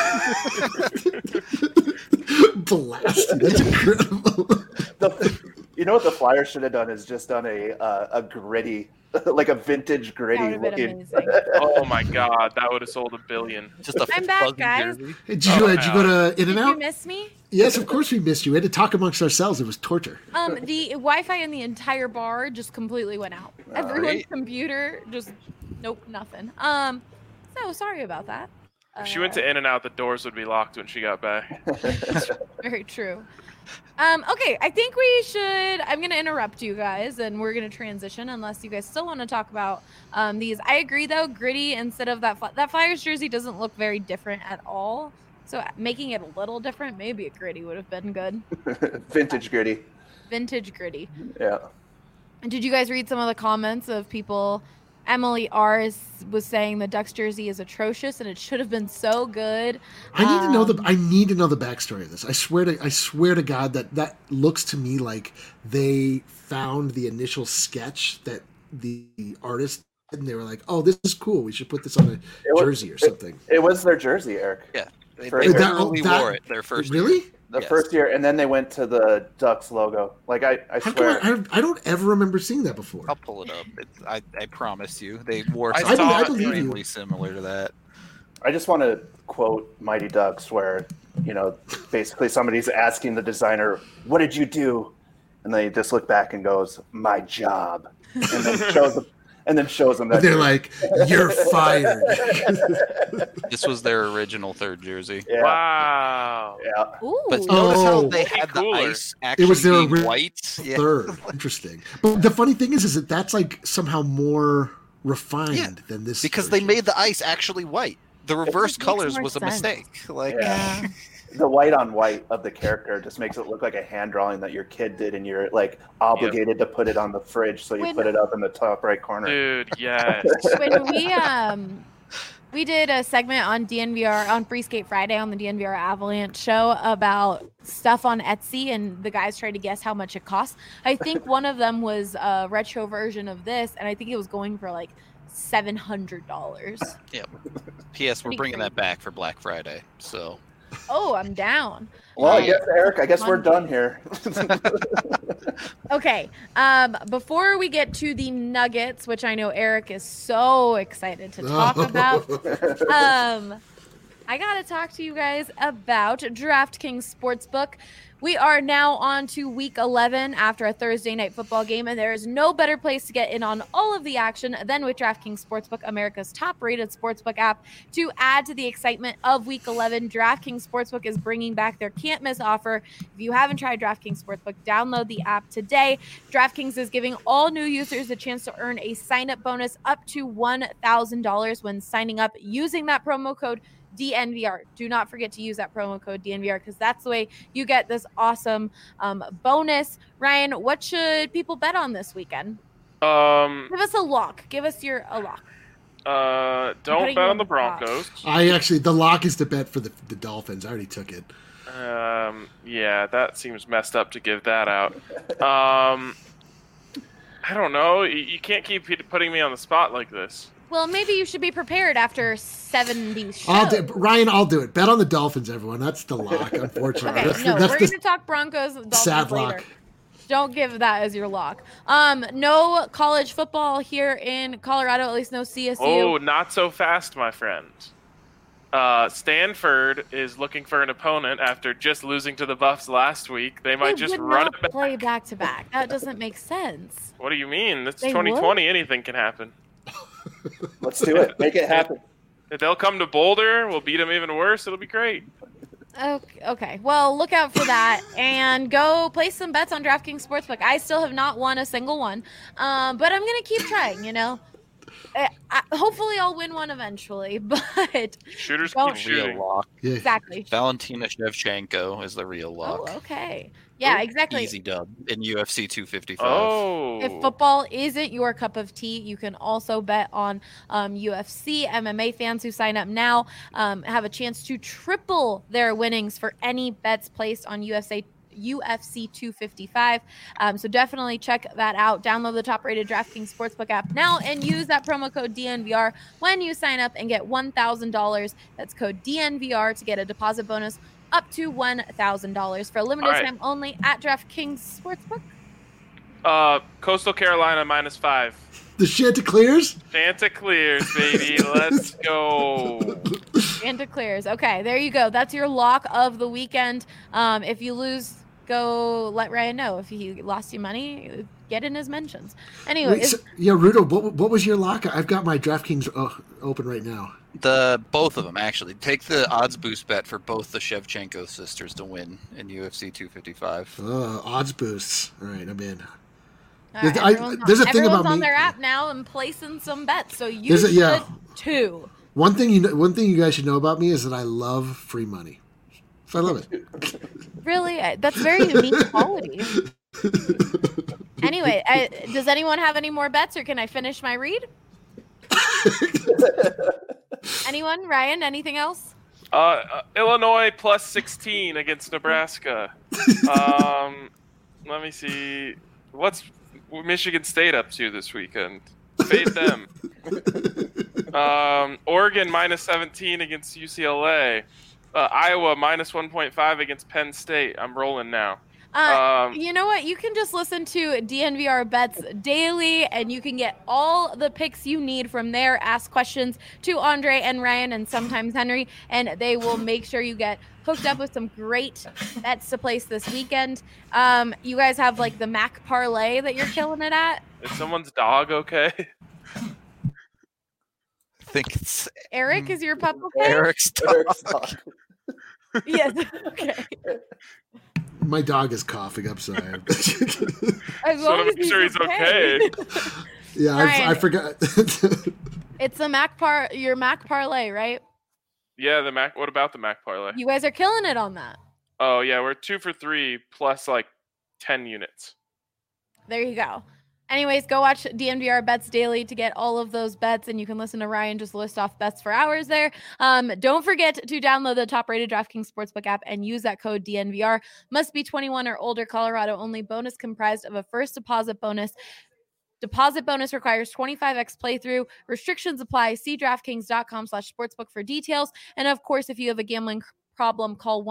Blasty. That's incredible. You know what the Flyers should have done is just done a gritty, like a vintage gritty That would have been looking. amazing. Oh my god, that would have sold $1 billion. Just a I'm back, fuzzy guys. jersey. Hey, did you go to In Did and you Out? miss me? Yes, of course we missed you. We had to talk amongst ourselves. It was torture. The Wi-Fi in the entire bar just completely went out. Everyone's right. computer just nope, nothing. So sorry about that. If she went to In-N-Out, the doors would be locked when she got back. Very true. Okay, I think we should. I'm going to interrupt you guys, and we're going to transition unless you guys still want to talk about these. I agree, though. Gritty instead of that Flyers jersey doesn't look very different at all. So making it a little different, maybe a Gritty would have been good. Vintage Gritty. Vintage Gritty. Yeah. Did you guys read some of the comments of people? Emily R was saying the Ducks jersey is atrocious and it should have been so good. I need to know the backstory of this. I swear to God that looks to me like they found the initial sketch that the artist did, and they were like, "Oh, this is cool. We should put this on a jersey or something." It was their jersey, Eric. Yeah, they For- literally wore it their first year. Really? The Yes. first year, and then they went to the Ducks logo. Like I How swear. come I don't ever remember seeing that before? I'll pull it up. I promise you, they wore I something saw it. I believe you. extremely similar to that. I just want to quote Mighty Ducks, where basically somebody's asking the designer, "What did you do?" And they just look back and goes, "My job," and then shows them that They're like, "You're fired." This was their original third jersey. Yeah. Wow. Yeah. Ooh. But notice how Oh. they had the Cooler. ice actually It was their being white. Yeah. Third, interesting. But the funny thing is that that's like somehow more refined than this Because they version. made the ice actually white. The reverse makes colors more was a sense. mistake. Like, Yeah. The white on white of the character just makes it look like a hand drawing that your kid did, and you're like obligated to put it on the fridge, so you When- put it up in the top right corner. Dude, yes. When we did a segment on DNVR on Free Skate Friday on the DNVR Avalanche show about stuff on Etsy, and the guys tried to guess how much it costs. I think one of them was a retro version of this, and I think it was going for like $700. yeah. P.S. We're Pretty bringing crazy. that back for Black Friday. So Oh, I'm down. Well, I guess Eric, we're done here. Okay. Before we get to the Nuggets, which I know Eric is so excited to talk about, I gotta talk to you guys about DraftKings Sportsbook. We are now on to week 11 after a Thursday night football game, and there is no better place to get in on all of the action than with DraftKings Sportsbook, America's top-rated sportsbook app. To add to the excitement of week 11, DraftKings Sportsbook is bringing back their can't-miss offer. If you haven't tried DraftKings Sportsbook, download the app today. DraftKings is giving all new users a chance to earn a sign-up bonus up to $1,000 when signing up using that promo code DNVR. Do not forget to use that promo code DNVR because that's the way you get this awesome bonus. Ryan, what should people bet on this weekend? Give us a lock. Give us a lock. Don't putting bet you on the on the spot. Broncos. the lock is the bet for the Dolphins. I already took it. Yeah, that seems messed up to give that out. I don't know. You can't keep putting me on the spot like this. Well, maybe you should be prepared after 70 shows. Ryan, I'll do it. Bet on the Dolphins, everyone. That's the lock, unfortunately. Okay, no, we're going to talk Broncos and Dolphins sad later. lock. Don't give that as your lock. No college football here in Colorado, at least no CSU. Oh, not so fast, my friend. Stanford is looking for an opponent after just losing to the Buffs last week. They might just would run not it back. play back to back. That doesn't make sense. What do you mean? It's They 2020. Anything can happen. Let's do it. Make it happen. If they'll come to Boulder, we'll beat them even worse. It'll be great. Okay. Well, look out for that and go place some bets on DraftKings Sportsbook. I still have not won a single one, but I'm going to keep trying, hopefully I'll win one eventually, but Shooters Don't- keep real shooting. lock. Yeah. exactly. Valentina Shevchenko is the real Oh, lock. okay. Yeah, exactly. Easy dub in UFC 255. Oh. If football isn't your cup of tea, you can also bet on UFC. MMA fans who sign up now have a chance to triple their winnings for any bets placed on UFC 255. So definitely check that out. Download the top-rated DraftKings Sportsbook app now and use that promo code DNVR when you sign up and get $1,000. That's code DNVR to get a deposit bonus up to $1,000 for a limited All right. time only at DraftKings Sportsbook. Coastal Carolina -5. The Chanticleers? Chanticleers, baby. Let's go. Chanticleers. Okay, there you go. That's your lock of the weekend. If you lose, go let Ryan know. If he lost you money, get in his mentions. Wait, Anyway, so, yeah, Rudo, what was your lock? I've got my DraftKings open right now. Both of them actually. Take the odds boost bet for both the Shevchenko sisters to win in UFC 255. Odds boosts. All right, I'm in. There's a thing about on me. their app now and placing some bets, so you should too. One thing you guys should know about me is that I love free money. So I love it. Really, that's very unique quality. Anyway, does anyone have any more bets, or can I finish my read? Anyone? Ryan? Anything else? Illinois plus 16 against Nebraska. Let me see. What's Michigan State up to this weekend? Fade them. Oregon minus 17 against UCLA. Iowa minus 1.5 against Penn State. I'm rolling now. You know what? You can just listen to DNVR Bets daily, and you can get all the picks you need from there. Ask questions to Andre and Ryan and sometimes Henry, and they will make sure you get hooked up with some great bets to place this weekend. You guys have like the Mac parlay that you're killing it at. Is someone's dog okay? I think it's Eric, is your pup okay? Eric's dog. Yes. Okay. My dog is coughing. I'm sorry. As long as make sure he's okay. Yeah, I forgot. It's the your Mac parlay, right? Yeah, the Mac. What about the Mac parlay? You guys are killing it on that. Oh yeah, we're 2 for 3 plus like 10 units. There you go. Anyways, go watch DNVR Bets Daily to get all of those bets, and you can listen to Ryan just list off bets for hours there. Don't forget to download the top-rated DraftKings Sportsbook app and use that code DNVR. Must be 21 or older, Colorado only. Bonus comprised of a first deposit bonus. Deposit bonus requires 25x playthrough. Restrictions apply. See DraftKings.com/sportsbook for details. And of course, if you have a gambling problem, call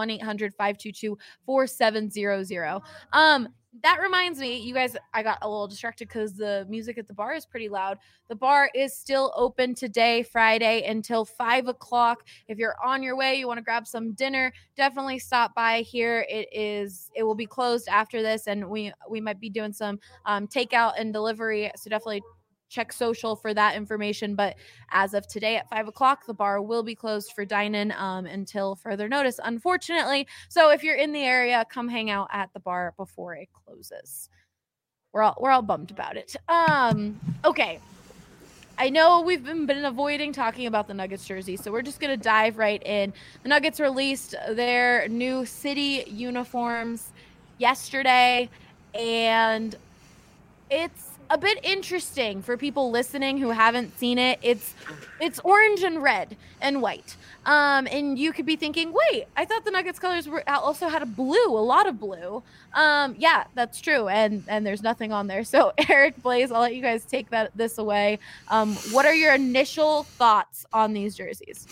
1-800-522-4700. That reminds me, you guys, I got a little distracted because the music at the bar is pretty loud. The bar is still open today, Friday, until 5 o'clock. If you're on your way, you want to grab some dinner, definitely stop by here. It will be closed after this, and we might be doing some takeout and delivery, so definitely check social for that information. But as of today at 5 o'clock, the bar will be closed for dine-in until further notice, unfortunately. So if you're in the area, come hang out at the bar before it closes. We're all bummed about it. Okay. I know we've been avoiding talking about the Nuggets jersey, so we're just going to dive right in. The Nuggets released their new city uniforms yesterday, and it's a bit interesting for people listening who haven't seen it. It's orange and red and white. And you could be thinking, wait, I thought the Nuggets colors also had a lot of blue. Yeah, that's true. And there's nothing on there. So Eric, Blaze, I'll let you guys take this away. What are your initial thoughts on these jerseys?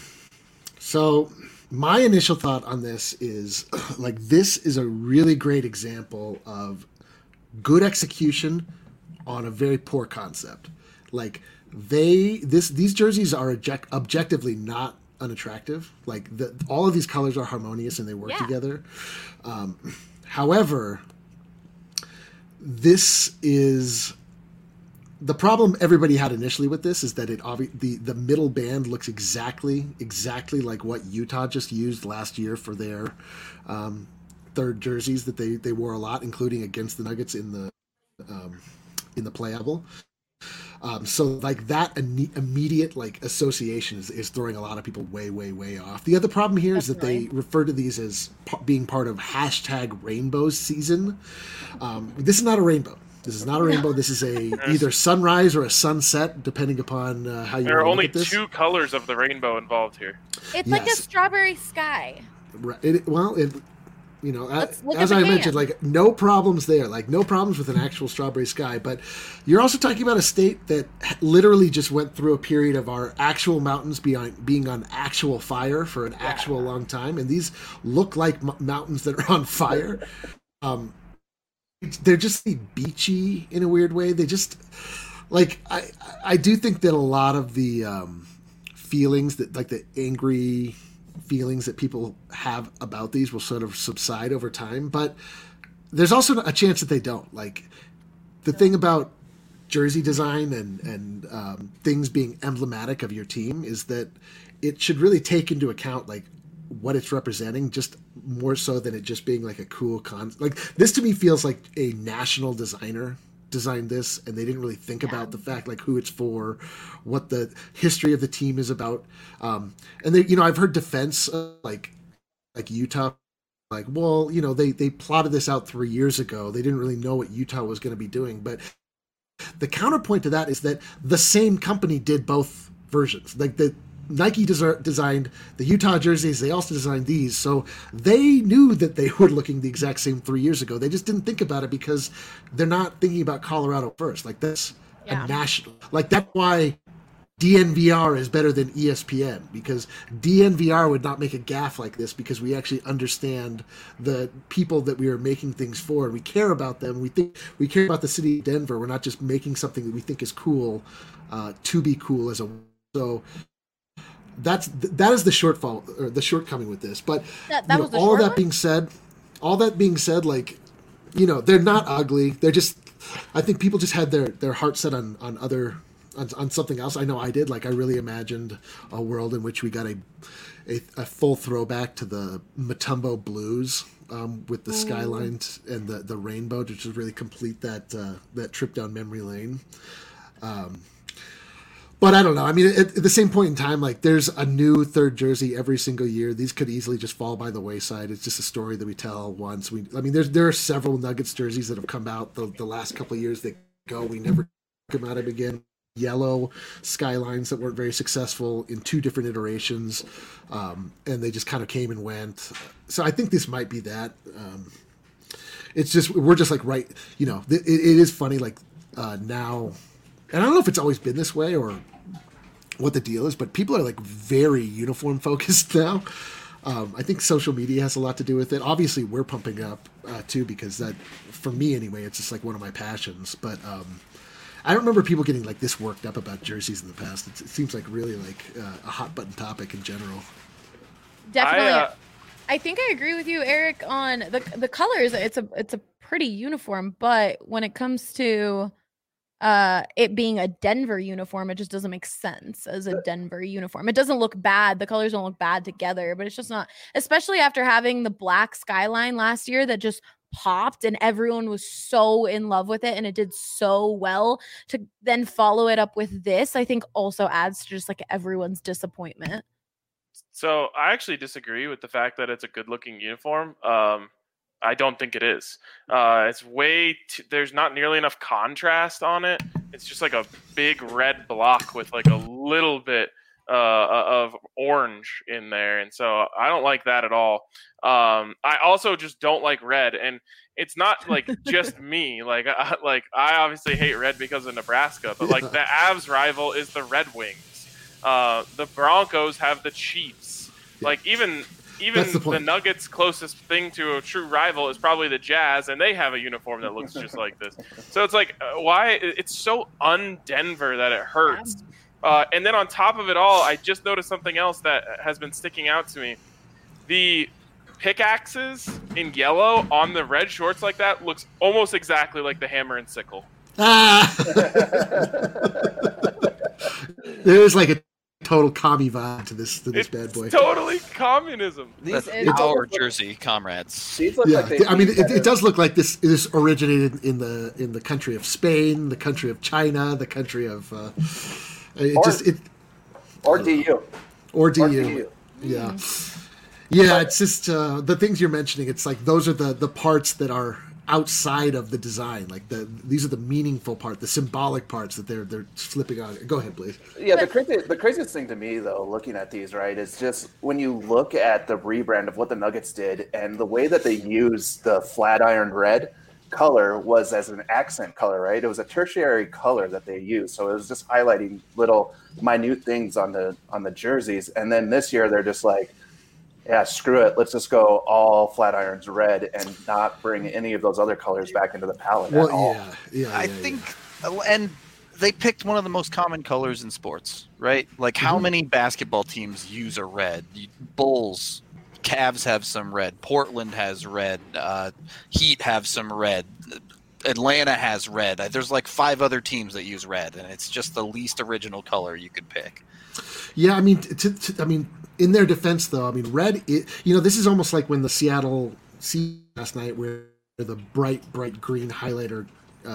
So my initial thought on this is like, this is a really great example of good execution on a very poor concept. Like these jerseys are objectively not unattractive. Like all of these colors are harmonious and they work together. However, this is the problem everybody had initially with this, is that the middle band looks exactly like what Utah just used last year for their third jerseys that they wore a lot, including against the Nuggets in the playable. So like that immediate like association is throwing a lot of people way off. The other problem here is that they refer to these as being part of #rainbow season. This is not a rainbow. This is not a rainbow. This is either sunrise or a sunset, depending upon how you. There are only look at this. 2 colors of the rainbow involved here. It's like a strawberry sky. You know, Look as at I the mentioned, can. like no problems there, like no problems with an actual strawberry sky. But you're also talking about a state that literally just went through a period of our actual mountains being on actual fire for an actual long time. And these look like mountains that are on fire. They're just beachy in a weird way. They just like, I do think that a lot of the feelings that like the angry feelings that people have about these will sort of subside over time, but there's also a chance that they don't. Like the thing about jersey design and things being emblematic of your team is that it should really take into account like what it's representing, just more so than it just being like a cool like this to me feels like a national designer designed this, and they didn't really think about the fact like who it's for, what the history of the team is about. And they, I've heard defense like Utah, like, well, they plotted this out 3 years ago. They didn't really know what Utah was going to be doing. But the counterpoint to that is that the same company did both versions. Like the Nike designed the Utah jerseys. They also designed these. So they knew that they were looking the exact same 3 years ago. They just didn't think about it because they're not thinking about Colorado first. Like that's a national, like that's why DNVR is better than ESPN, because DNVR would not make a gaffe like this because we actually understand the people that we are making things for, and we care about them. We care about the city of Denver. We're not just making something that we think is cool to be cool as a so. That is the shortfall or the shortcoming with this. But all that being said, like, they're not ugly. They're just, I think people just had their heart set on something else. I know I did. Like, I really imagined a world in which we got a full throwback to the Matumbo Blues with the skylines and the rainbow to just really complete that trip down memory lane. But I don't know. I mean, at the same point in time, like there's a new third jersey every single year. These could easily just fall by the wayside. It's just a story that we tell once. There are several Nuggets jerseys that have come out the last couple of years that we never come out of again. Yellow skylines that weren't very successful in 2 different iterations, and they just kind of came and went. So I think this might be that. It's just we're just like right. It is funny like now. And I don't know if it's always been this way or what the deal is, but people are like very uniform focused now. I think social media has a lot to do with it. Obviously, we're pumping up too, because that, for me anyway, it's just like one of my passions. But I don't remember people getting like this worked up about jerseys in the past. It seems like really like a hot button topic in general. Definitely. I think I agree with you, Eric, on the colors. It's a pretty uniform, but when it comes to it being a Denver uniform, it just doesn't make sense as a Denver uniform. It doesn't look bad. The colors don't look bad together, but it's just not, especially after having the black skyline last year that just popped and everyone was so in love with it and it did so well. To then follow it up with this, I think also adds to just like everyone's disappointment. So I actually disagree with the fact that it's a good looking uniform. I don't think it is. It's there's not nearly enough contrast on it. It's just like a big red block with like a little bit of orange in there. And so I don't like that at all. I also just don't like red. And it's not like just me. Like I obviously hate red because of Nebraska, but like the Avs rival is the Red Wings. The Broncos have the Chiefs. Like even the Nuggets' closest thing to a true rival is probably the Jazz, and they have a uniform that looks just like this. So it's like, why? It's so un-Denver that it hurts. And then on top of it all, I just noticed something else that has been sticking out to me. The pickaxes in yellow on the red shorts like that looks almost exactly like the hammer and sickle. There's like a total commie vibe to this bad boy. Totally communism. That's our jersey, comrades. These look like they it does look like this originated in the country of Spain, the country of China, the country of or DU. Yeah. Yeah, it's just the things you're mentioning. It's like those are the parts that are outside of the design. Like these are the meaningful part, the symbolic parts that they're flipping on. Go ahead, please. Yeah, the craziest thing to me though, looking at these, right, is just when you look at the rebrand of what the Nuggets did and the way that they used the Flatiron red color was as an accent color, right? It was a tertiary color that they used, so it was just highlighting little minute things on the jerseys. And then this year they're just like, yeah, screw it. Let's just go all Flatirons red and not bring any of those other colors back into the palette at all. I think, and they picked one of the most common colors in sports, right? Like how many basketball teams use a red? Bulls, Cavs have some red. Portland has red. Heat have some red. Atlanta has red. There's like 5 other teams that use red, and it's just the least original color you could pick. Yeah, I mean, in their defense, though, I mean, red. This is almost like when the Seattle Sea last night, where the bright green highlighter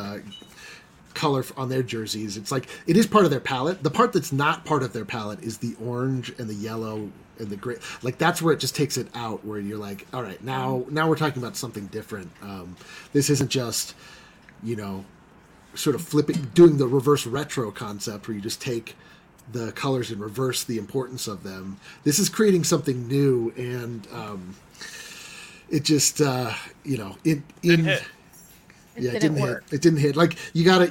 color on their jerseys. It's like it is part of their palette. The part that's not part of their palette is the orange and the yellow and the gray. Like that's where it just takes it out. Where you're like, all right, now we're talking about something different. This isn't just, sort of doing the reverse retro concept where you just take the colors and reverse the importance of them. This is creating something new, and it just it didn't hit. It didn't hit. Like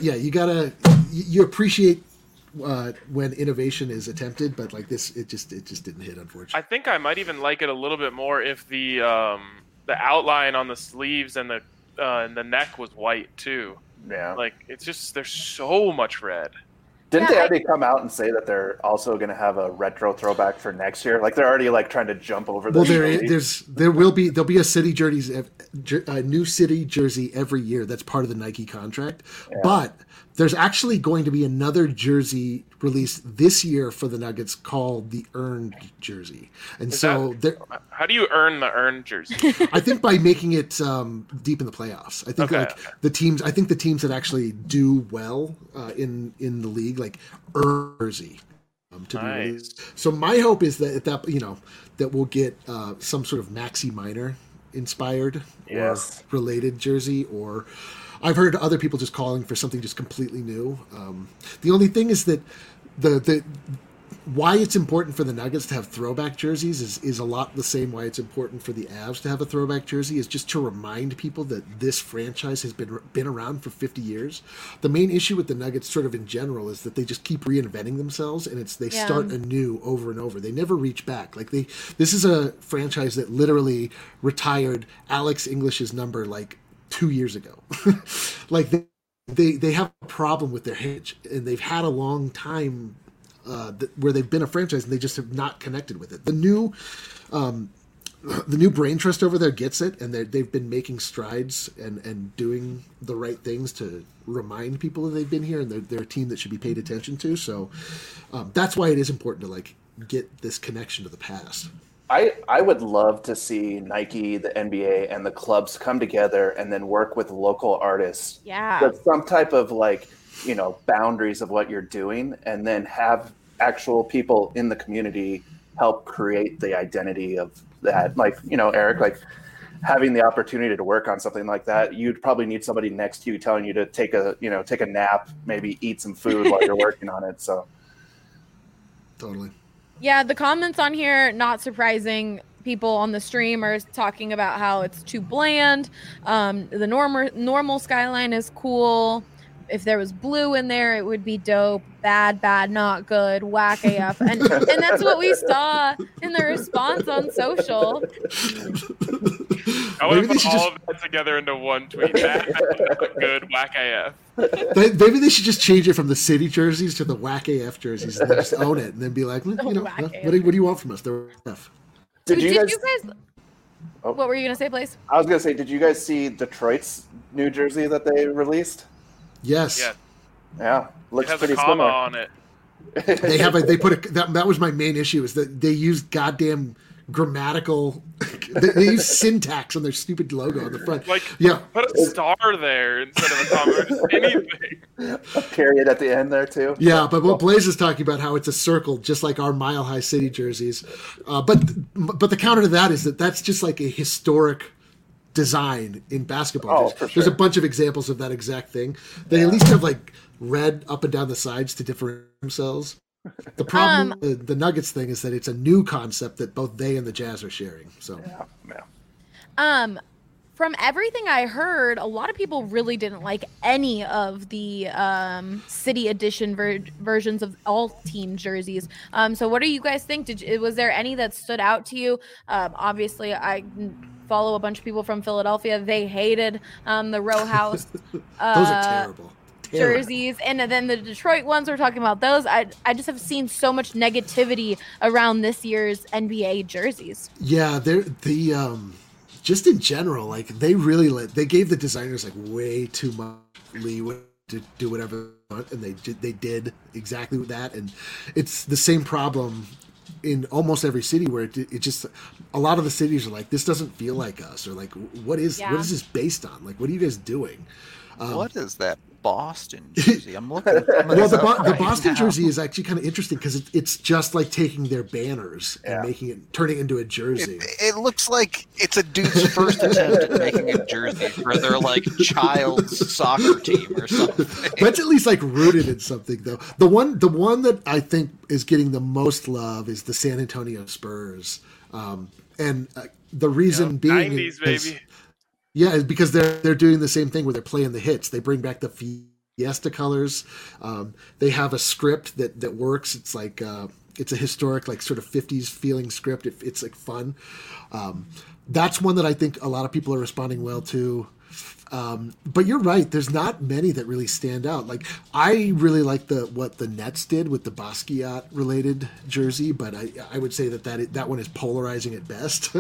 you appreciate when innovation is attempted, but like this, it just didn't hit, unfortunately. I think I might even like it a little bit more if the outline on the sleeves and the neck was white too. Yeah. Like it's just there's so much red. Didn't they already come out and say that they're also going to have a retro throwback for next year? Like they're already like trying to jump over the. Well, there'll be a city a new city jersey every year. That's part of the Nike contract. Yeah. But there's actually going to be another jersey released this year for the Nuggets called the Earned jersey. And how do you earn the Earned jersey? I think by making it deep in the playoffs. I think the teams that actually do well in the league like earn jersey to be released. So my hope is that that we'll get some sort of Maxi Minor inspired or related jersey, or I've heard other people just calling for something just completely new. The only thing is that the why it's important for the Nuggets to have throwback jerseys is a lot the same why it's important for the Avs to have a throwback jersey, is just to remind people that this franchise has been around for 50 years. The main issue with the Nuggets sort of in general is that they just keep reinventing themselves, and they start anew over and over. They never reach back. Like this is a franchise that literally retired Alex English's number like 2 years ago. Like they have a problem with their heritage, and they've had a long time where they've been a franchise and they just have not connected with it. The new brain trust over there gets it, and they've been making strides and doing the right things to remind people that they've been here, and they're a team that should be paid attention to. So that's why it is important to like get this connection to the past. I would love to see Nike, the NBA, and the clubs come together and then work with local artists. Yeah. With some type of boundaries of what you're doing, and then have actual people in the community help create the identity of that. Like, Eric, like having the opportunity to work on something like that, you'd probably need somebody next to you telling you to take a nap, maybe eat some food while you're working on it. So totally. Yeah, the comments on here, not surprising. People on the stream are talking about how it's too bland. The normal skyline is cool. If there was blue in there, it would be dope. Bad, not good, whack AF. And that's what we saw in the response on social. I want to put all of that together into one tweet. Bad, not good, whack AF. Maybe they should just change it from the city jerseys to the whack AF jerseys, and then just own it, and then be like, what do you want from us? The AF. Did you guys? What were you going to say, Blaze? I was going to say, did you guys see Detroit's new jersey that they released? Yes. Yeah. Looks it has pretty a comma similar on it. That was my main issue, is that they used goddamn grammatical they use syntax on their stupid logo on the front. Like, put a star there instead of a comma, or just anything. A period at the end there too. Yeah, but what Blaze is talking about, how it's a circle, just like our Mile High City jerseys. But the counter to that is that that's just like a historic design in basketball. There's a bunch of examples of that exact thing. They at least have like red up and down the sides to differentiate themselves. The problem the Nuggets thing is that it's a new concept that both they and the Jazz are sharing. So from everything I heard, a lot of people really didn't like any of the city edition versions of all team jerseys. So what do you guys think? Was there any that stood out to you? Obviously, I follow a bunch of people from Philadelphia. They hated the row house. Those are terrible. Jerseys, and then the Detroit ones, we're talking about those. I just have seen so much negativity around this year's NBA jerseys. Yeah, the just in general, like they really they gave the designers like way too much leeway to do whatever they want, and they did exactly that. And it's the same problem in almost every city where it just, a lot of the cities are like, this doesn't feel like us, or like, what is this based on? Like, what are you guys doing? What is that Boston jersey? I'm looking. Well, the Boston jersey is actually kind of interesting because it's just like taking their banners and turning it into a jersey. It looks like it's a dude's first attempt at making a jersey for their like child's soccer team or something. That's at least like rooted in something, though. The one that I think is getting the most love is the San Antonio Spurs, and the reason being 90s baby. Yeah, it's because they're doing the same thing where they're playing the hits. They bring back the Fiesta colors. They have a script that works. It's like it's a historic, like sort of 50s feeling script. It's like fun. That's one that I think a lot of people are responding well to. But you're right. There's not many that really stand out. Like I really like what the Nets did with the Basquiat related jersey, but I would say that one is polarizing at best.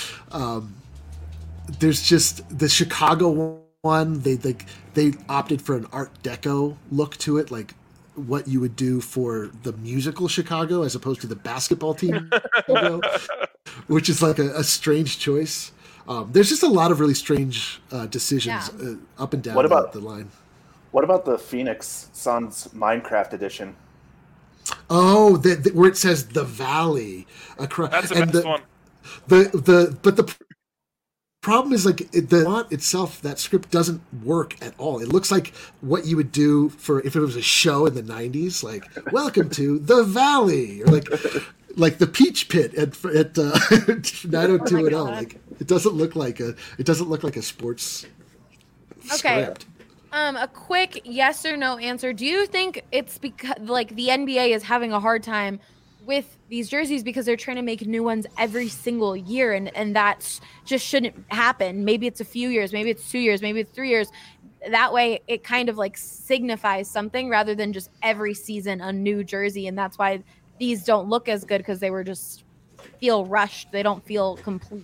There's just the Chicago one. They opted for an Art Deco look to it, like what you would do for the musical Chicago as opposed to the basketball team logo, which is like a strange choice. There's just a lot of really strange decisions up and down the line. What about the Phoenix Suns Minecraft edition? Oh, where it says the Valley across. That's the best one. But the problem is like the font itself, that script doesn't work at all. It looks like what you would do for if it was a show in the 90s, like welcome to the Valley, or like the Peach Pit at 90210. Like it doesn't look like a sports script. A quick yes or no answer. Do you think it's because like the NBA is having a hard time with these jerseys because they're trying to make new ones every single year, and that just shouldn't happen? Maybe it's a few years, maybe it's 2 years, maybe it's 3 years. That way it kind of like signifies something rather than just every season a new jersey. And that's why these don't look as good, because they were just feel rushed. They don't feel complete.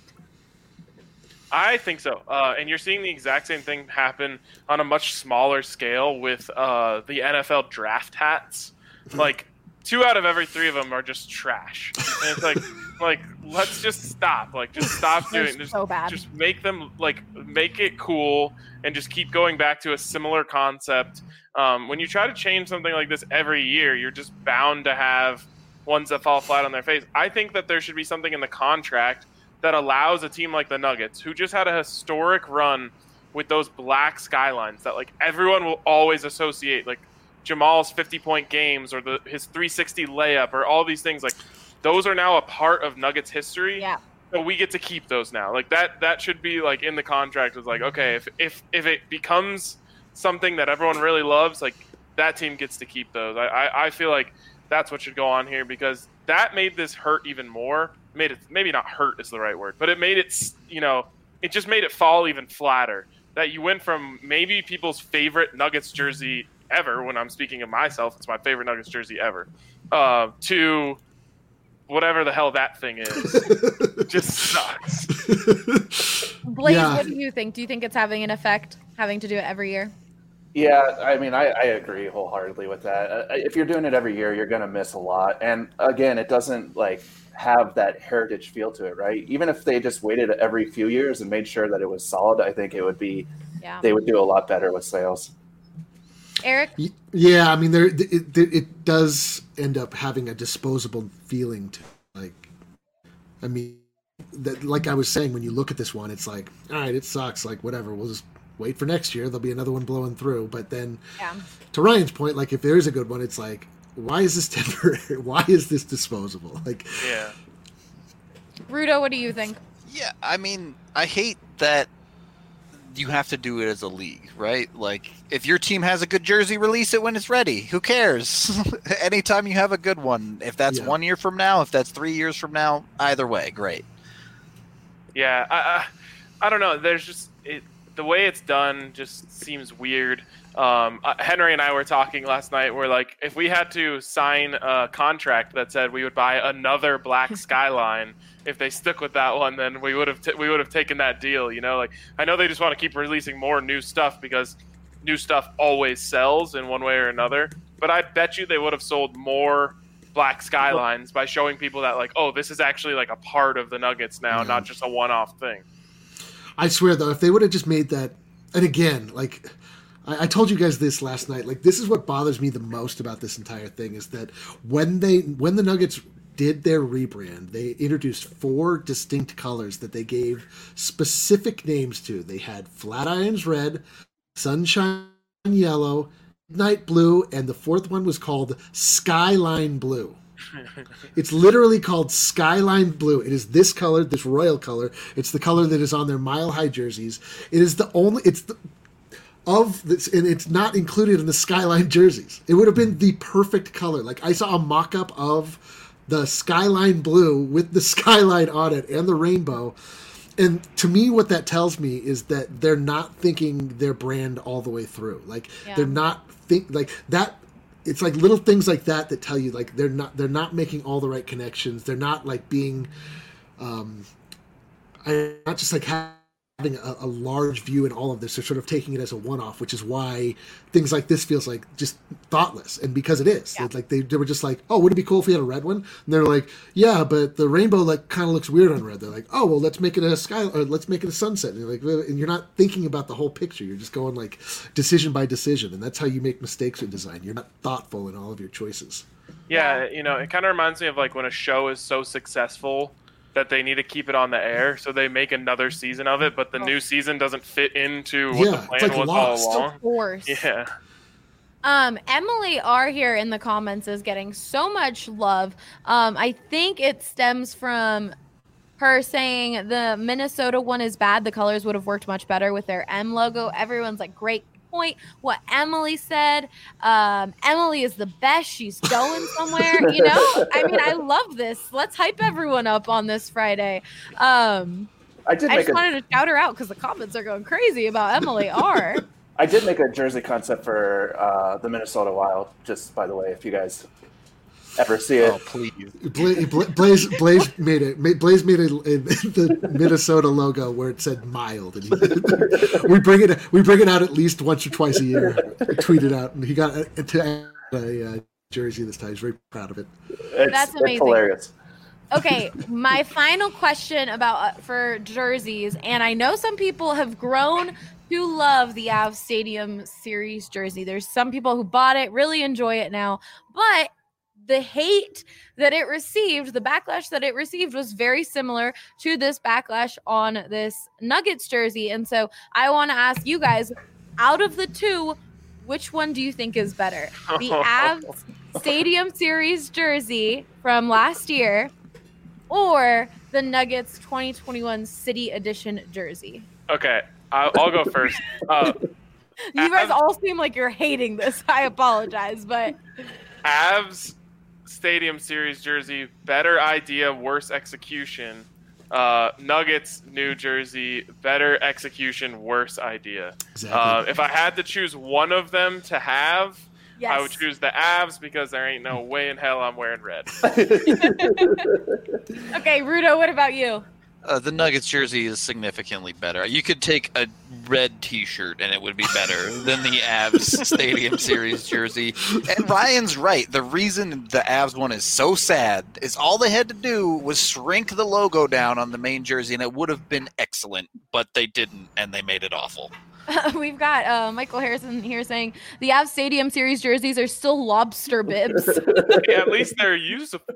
I think so. And you're seeing the exact same thing happen on a much smaller scale with the NFL draft hats. Like 2 out of every 3 of them are just trash. And it's like let's just stop. Like just stop doing this. So bad. Just make them make it cool and just keep going back to a similar concept. When you try to change something like this every year, you're just bound to have ones that fall flat on their face. I think that there should be something in the contract that allows a team like the Nuggets, who just had a historic run with those black skylines that like everyone will always associate, like Jamal's 50-point games or his 360 layup or all these things, like those are now a part of Nuggets history. Yeah. So we get to keep those now. Like that should be like in the contract. It's like, okay, if it becomes something that everyone really loves, like that team gets to keep those. I feel like that's what should go on here, because that made this hurt even more. Made it, maybe not hurt is the right word, but it made it, it just made it fall even flatter. That you went from maybe people's favorite Nuggets jersey ever, when I'm speaking of myself, it's my favorite Nuggets jersey ever, to whatever the hell that thing is. Just sucks. Blaze, what do you think? Do you think it's having an effect, having to do it every year? Yeah, I mean, I agree wholeheartedly with that. If you're doing it every year, you're going to miss a lot. And again, it doesn't like have that heritage feel to it, right? Even if they just waited every few years and made sure that it was solid, I think it would be, they would do a lot better with sales. Eric? Yeah, I mean, it does end up having a disposable feeling to it. Like, I mean, like I was saying, when you look at this one, it's like, all right, it sucks. Like, whatever, we'll just wait for next year. There'll be another one blowing through. But then, to Ryan's point, like if there is a good one, it's like, why is this temporary? Why is this disposable? Like, yeah. Rudo, what do you think? Yeah, I mean, I hate that you have to do it as a league, right? Like, if your team has a good jersey, release it when it's ready. Who cares? Anytime you have a good one, if that's 1 year from now, if that's 3 years from now, either way, great. Yeah, I don't know. There's just the way it's done just seems weird. Henry and I were talking last night. We're like, if we had to sign a contract that said we would buy another black Skyline, if they stuck with that one, then we would have taken that deal. You know, like I know they just want to keep releasing more new stuff because new stuff always sells in one way or another. But I bet you they would have sold more black Skylines by showing people that like, oh, this is actually like a part of the Nuggets now, not just a one-off thing. I swear though, if they would have just made that, and again, like. I told you guys this last night. Like, this is what bothers me the most about this entire thing is that when the Nuggets did their rebrand, they introduced 4 distinct colors that they gave specific names to. They had Flatirons Red, Sunshine Yellow, Midnight Blue, and the 4th one was called Skyline Blue. It's literally called Skyline Blue. It is this color, this royal color. It's the color that is on their Mile High jerseys. It is the only. It's the of this, and it's not included in the Skyline jerseys. It would have been the perfect color. Like I saw a mock-up of the Skyline Blue with the skyline on it and the rainbow. And to me, what that tells me is that they're not thinking their brand all the way through. Like they're not like that. It's like little things like that that tell you like they're not making all the right connections. They're not like being, not just like having a large view in all of this. They're sort of taking it as a one-off, which is why things like this feels like just thoughtless. And because it is, like they were just like, oh, would it be cool if we had a red one? And they're like, yeah, but the rainbow like kind of looks weird on red. They're like, oh, well, let's make it a sky, or let's make it a sunset. And you're like, and you're not thinking about the whole picture. You're just going like decision by decision, and that's how you make mistakes in design. You're not thoughtful in all of your choices. Yeah, you know, it kind of reminds me of like when a show is so successful that they need to keep it on the air, so they make another season of it, but the new season doesn't fit into what the plan was Lost. all along. Of course. Yeah. Emily R here in the comments is getting so much love. I think it stems from her saying the Minnesota one is bad. The colors would have worked much better with their M logo. Everyone's like, great point. What Emily said. Emily is the best. She's going somewhere. You know, I mean, I love this. Let's hype everyone up on this Friday. I just wanted to shout her out because the comments are going crazy about Emily R. I did make a jersey concept for the Minnesota Wild, just by the way, if you guys ever see it. Oh, please. Blaze made it. Blaze made the Minnesota logo where it said mild, and we bring it out at least once or twice a year. Tweet it out, and he got a jersey this time. He's very proud of it. That's amazing. It's hilarious. Okay, my final question about for jerseys, and I know some people have grown to love the Avs Stadium Series jersey. There's some people who bought it, really enjoy it now, but the hate that it received, the backlash that it received was very similar to this backlash on this Nuggets jersey. And so I want to ask you guys, out of the two, which one do you think is better? The Avs Stadium Series jersey from last year or the Nuggets 2021 City Edition jersey? Okay, I'll go first. You guys all seem like you're hating this. I apologize, but Avs Stadium Series jersey, better idea, worse execution. Nuggets New Jersey, better execution, worse idea. Exactly. If I had to choose one of them to have, yes. I would choose the Avs because there ain't no way in hell I'm wearing red. Okay, Rudo, what about you? The Nuggets jersey is significantly better. You could take a red T-shirt and it would be better than the Avs Stadium Series jersey. And Ryan's right. The reason the Avs one is so sad is all they had to do was shrink the logo down on the main jersey, and it would have been excellent. But they didn't, and they made it awful. We've got Michael Harrison here saying the Avs Stadium Series jerseys are still lobster bibs. Yeah, at least they're useful.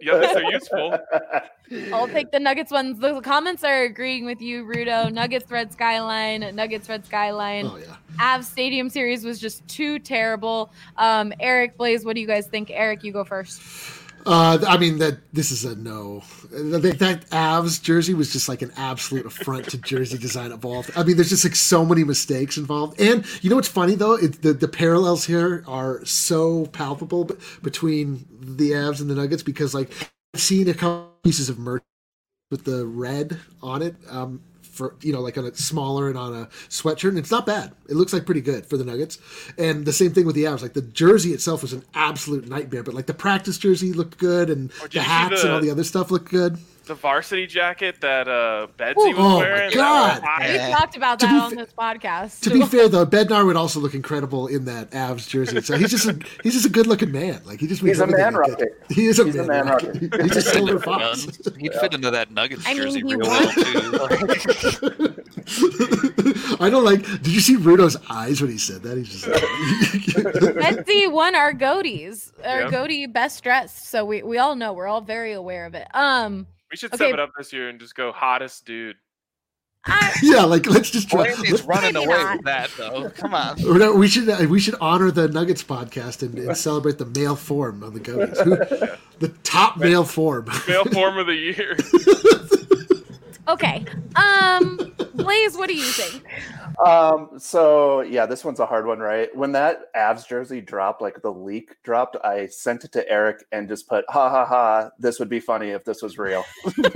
I'll take the Nuggets ones. The comments are agreeing with you, Rudo. Nuggets Red Skyline. Oh, yeah. Avs Stadium Series was just too terrible. Eric, Blaze, what do you guys think? Eric, you go first. I mean, this is a no. That Avs jersey was just like an absolute affront to jersey design evolved. I mean, there's just like so many mistakes involved. And you know what's funny though? The parallels here are so palpable between the Avs and the Nuggets because like I've seen a couple pieces of merch with the red on it for like on a smaller and on a sweatshirt, and it's not bad. It looks like pretty good for the Nuggets. And the same thing with the Avs. Like the jersey itself was an absolute nightmare, but like the practice jersey looked good, and the hats and all the other stuff looked good. The varsity jacket that Bedsy was wearing. My God. We talked about that on this podcast. To be fair, though, Bednar would also look incredible in that Avs jersey. So he's just a good looking man. Like he just makes He's a man rocket. He is a man rocket. He's a silver fox. He'd fit into that Nuggets jersey he real well too. I don't like. Did you see Rudo's eyes when he said that? He's just like, Betsy won our Goaties, Goatee best dressed. So we all know, we're all very aware of it. We should step it up this year and just go hottest dude. yeah, like let's just try. He's running maybe away not. with that though. Come on. We should honor the Nuggets podcast and celebrate the male form of the Goaties. The top male form. Male form of the year. Okay. Blaze, what do you think? So yeah, this one's a hard one, right? When that Avs jersey dropped, like the leak dropped, I sent it to Eric and just put, ha ha ha, this would be funny if this was real.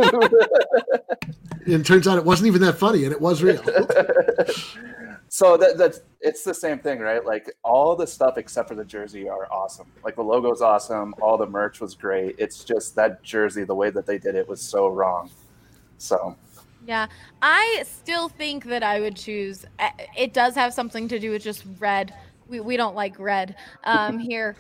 And it turns out it wasn't even that funny, and it was real. So that's it's the same thing, right? Like all the stuff except for the jersey are awesome. Like the logo's awesome, all the merch was great. It's just that jersey, the way that they did it was so wrong. So Yeah, I still think that I would choose. It does have something to do with just red. We don't like red here.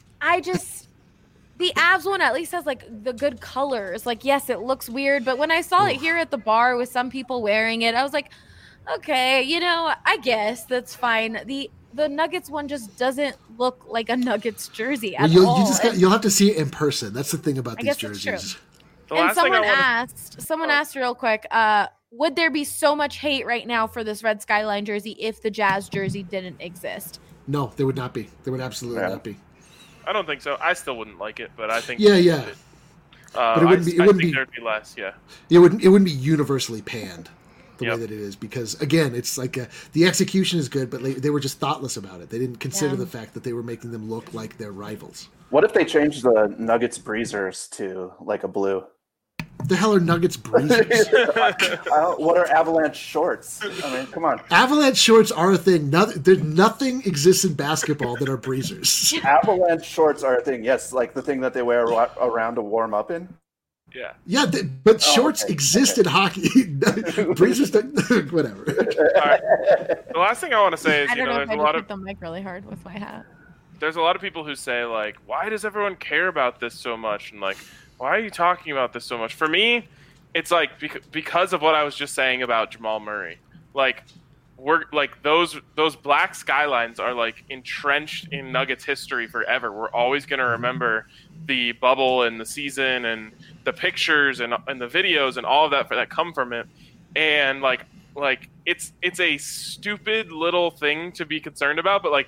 The Avs one at least has like the good colors. Like, yes, it looks weird, but when I saw it here at the bar with some people wearing it, I was like, okay, I guess that's fine. The Nuggets one just doesn't look like a Nuggets jersey at all. You'll have to see it in person. That's the thing about these jerseys. That's true. And someone asked real quick, would there be so much hate right now for this red Skyline jersey if the Jazz jersey didn't exist? No, there would not be. There would absolutely not be. I don't think so. I still wouldn't like it, but I think Yeah. But it wouldn't be. It wouldn't be. There'd be less. Yeah. It wouldn't be universally panned the way that it is, because again, it's like the execution is good, but they were just thoughtless about it. They didn't consider the fact that they were making them look like their rivals. what if they changed the Nuggets breezers to like a blue? The hell are Nuggets breezers? What are Avalanche shorts? I mean, come on. Avalanche shorts are a thing. Nothing exists in basketball that are breezers. Avalanche shorts are a thing. Yes, like the thing that they wear around to warm up in. Yeah. Yeah, but shorts exist in hockey. Breezers, whatever. All right. The last thing I want to say is, I don't know if there's I a lot hit of the mic really hard with my hat. there's a lot of people who say like, why does everyone care about this so much? And like, why are you talking about this so much? For me, it's like because of what I was just saying about Jamal Murray. Like, we're like those black skylines are like entrenched in Nuggets history forever. We're always going to remember the bubble and the season and the pictures and the videos and all of that come from it. And like it's a stupid little thing to be concerned about, but like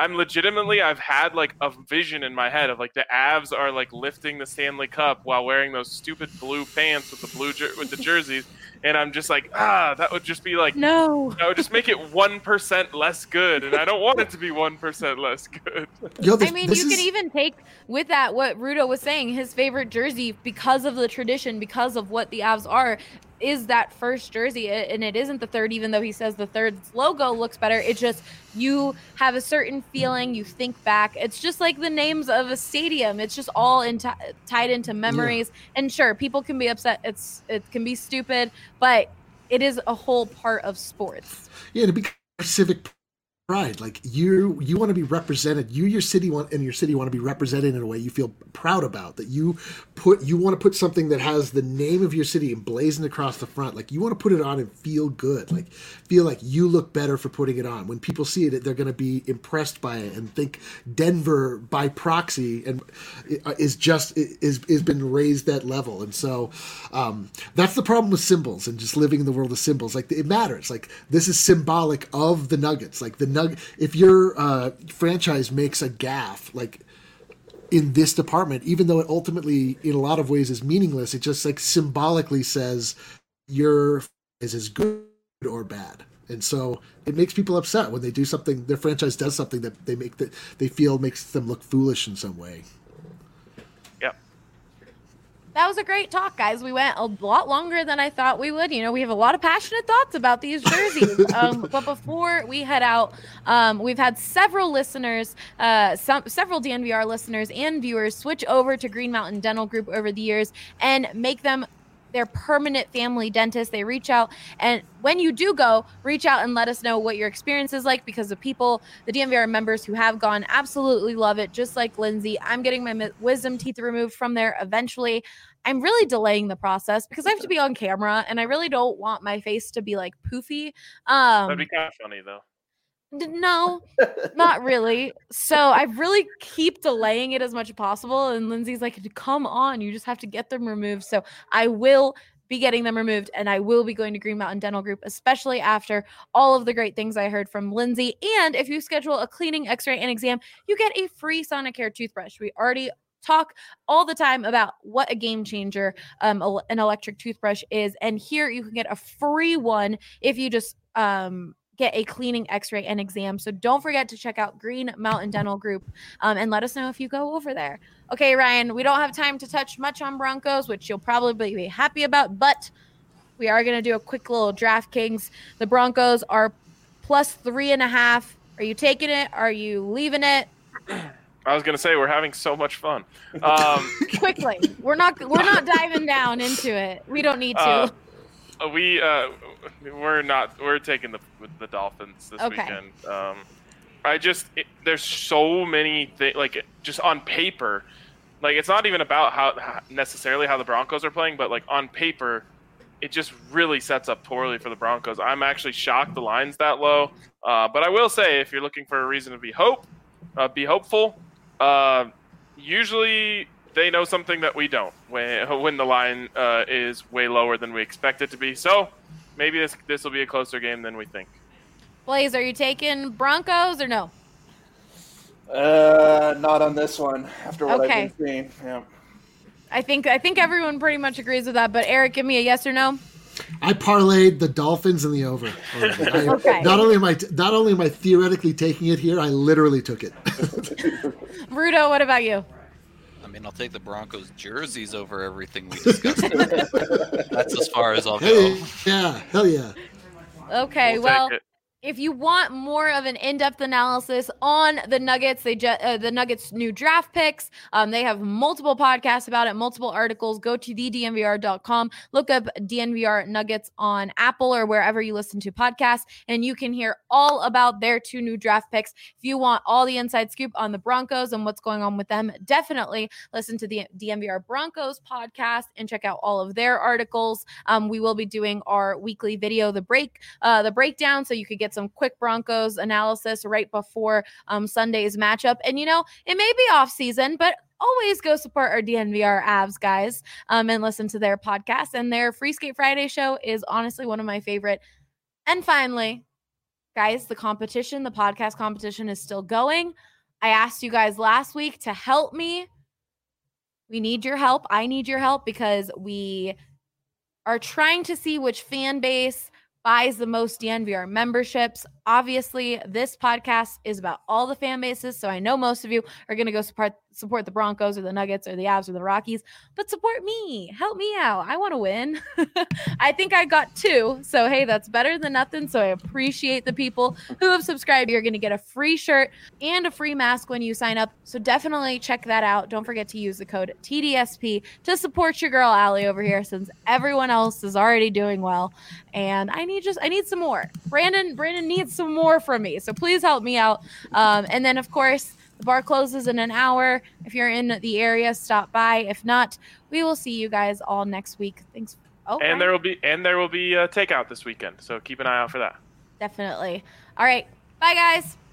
I've had like a vision in my head of like the Avs are like lifting the Stanley Cup while wearing those stupid blue pants with the jerseys, and I'm just like, that would just be like, no, that would just make it 1% less good, and I don't want it to be 1% less good. Yo, I mean, you can even take with that what Rudo was saying, his favorite jersey because of the tradition, because of what the Avs are, is that first jersey, and it isn't the third, even though he says the third's logo looks better. It's just you have a certain feeling, you think back. It's just like the names of a stadium. It's just all tied into memories. Yeah. And sure, people can be upset. It can be stupid, but it is a whole part of sports. Yeah, to be civic pride, like you want to be represented. Your city want to be represented in a way you feel proud about. That you want to put something that has the name of your city emblazoned across the front. Like you want to put it on and feel good. Like feel like you look better for putting it on. When people see it, they're going to be impressed by it and think Denver by proxy and is been raised that level. And so that's the problem with symbols and just living in the world of symbols. Like it matters. Like this is symbolic of the Nuggets. Like the if your franchise makes a gaffe, like in this department, even though it ultimately, in a lot of ways, is meaningless, it just like symbolically says your franchise is good or bad, and so it makes people upset when they do something. Their franchise does something that they feel makes them look foolish in some way. Yep. That was a great talk, guys. We went a lot longer than I thought we would. We have a lot of passionate thoughts about these jerseys. But before we head out, we've had several listeners, several DNVR listeners and viewers switch over to Green Mountain Dental Group over the years and make them their permanent family dentist. They reach out, and when you do go, reach out and let us know what your experience is like, because the DNVR members who have gone absolutely love it, just like Lindsay. I'm getting my wisdom teeth removed from there eventually. I'm really delaying the process because I have to be on camera, and I really don't want my face to be like poofy. That'd be kind of funny though. No, not really. So I really keep delaying it as much as possible. And Lindsay's like, come on, you just have to get them removed. So I will be getting them removed, and I will be going to Green Mountain Dental Group, especially after all of the great things I heard from Lindsay. And if you schedule a cleaning, x-ray, and exam, you get a free Sonicare toothbrush. We already talk all the time about what a game changer an electric toothbrush is. And here you can get a free one if you just get a cleaning, x-ray, and exam. So don't forget to check out Green Mountain Dental Group and let us know if you go over there. Okay, Ryan, we don't have time to touch much on Broncos, which you'll probably be happy about, but we are going to do a quick little DraftKings. The Broncos are plus 3.5. Are you taking it? Are you leaving it? I was going to say, we're having so much fun. Quickly. We're not diving down into it. We don't need to. We're taking the Dolphins this weekend. There's so many things, like, just on paper, like, it's not even about how necessarily how the Broncos are playing, but like on paper, it just really sets up poorly for the Broncos. I'm actually shocked the line's that low. But I will say, if you're looking for a reason to be hopeful, usually they know something that we don't when the line is way lower than we expect it to be. So maybe this will be a closer game than we think. Blaze, are you taking Broncos or no? Not on this one. After what I've been seeing, yeah. I think everyone pretty much agrees with that. But Eric, give me a yes or no. I parlayed the Dolphins in the over. Okay. Not only am I theoretically taking it here, I literally took it. Rudo, what about you? I mean, I'll take the Broncos jerseys over everything we discussed. That's as far as I'll go. Hey, yeah, hell yeah. Okay, well, if you want more of an in-depth analysis on the Nuggets, the Nuggets' new draft picks, they have multiple podcasts about it, multiple articles. Go to thednvr.com, look up DNVR Nuggets on Apple or wherever you listen to podcasts, and you can hear all about their 2 new draft picks. If you want all the inside scoop on the Broncos and what's going on with them, definitely listen to the DNVR Broncos podcast and check out all of their articles. We will be doing our weekly video, the breakdown, so you could get some quick Broncos analysis right before Sunday's matchup. And, it may be off season, but always go support our DNVR Avs guys and listen to their podcast. And their Free Skate Friday show is honestly one of my favorite. And finally, guys, the podcast competition is still going. I asked you guys last week to help me. We need your help. I need your help because we are trying to see which fan base buys the most DNVR memberships. Obviously, this podcast is about all the fan bases, so I know most of you are going to go support the Broncos or the Nuggets or the Avs or the Rockies, but support me. Help me out. I want to win. I think I got 2, so hey, that's better than nothing, so I appreciate the people who have subscribed. You're going to get a free shirt and a free mask when you sign up, so definitely check that out. Don't forget to use the code TDSP to support your girl Allie over here, since everyone else is already doing well, and I need some more. Brandon needs some more from me, so please help me out. And then, of course, the bar closes in an hour. If you're in the area, stop by. If not, we will see you guys all next week. Thanks. And there will be takeout this weekend, so keep an eye out for that. Definitely. All right. Bye, guys.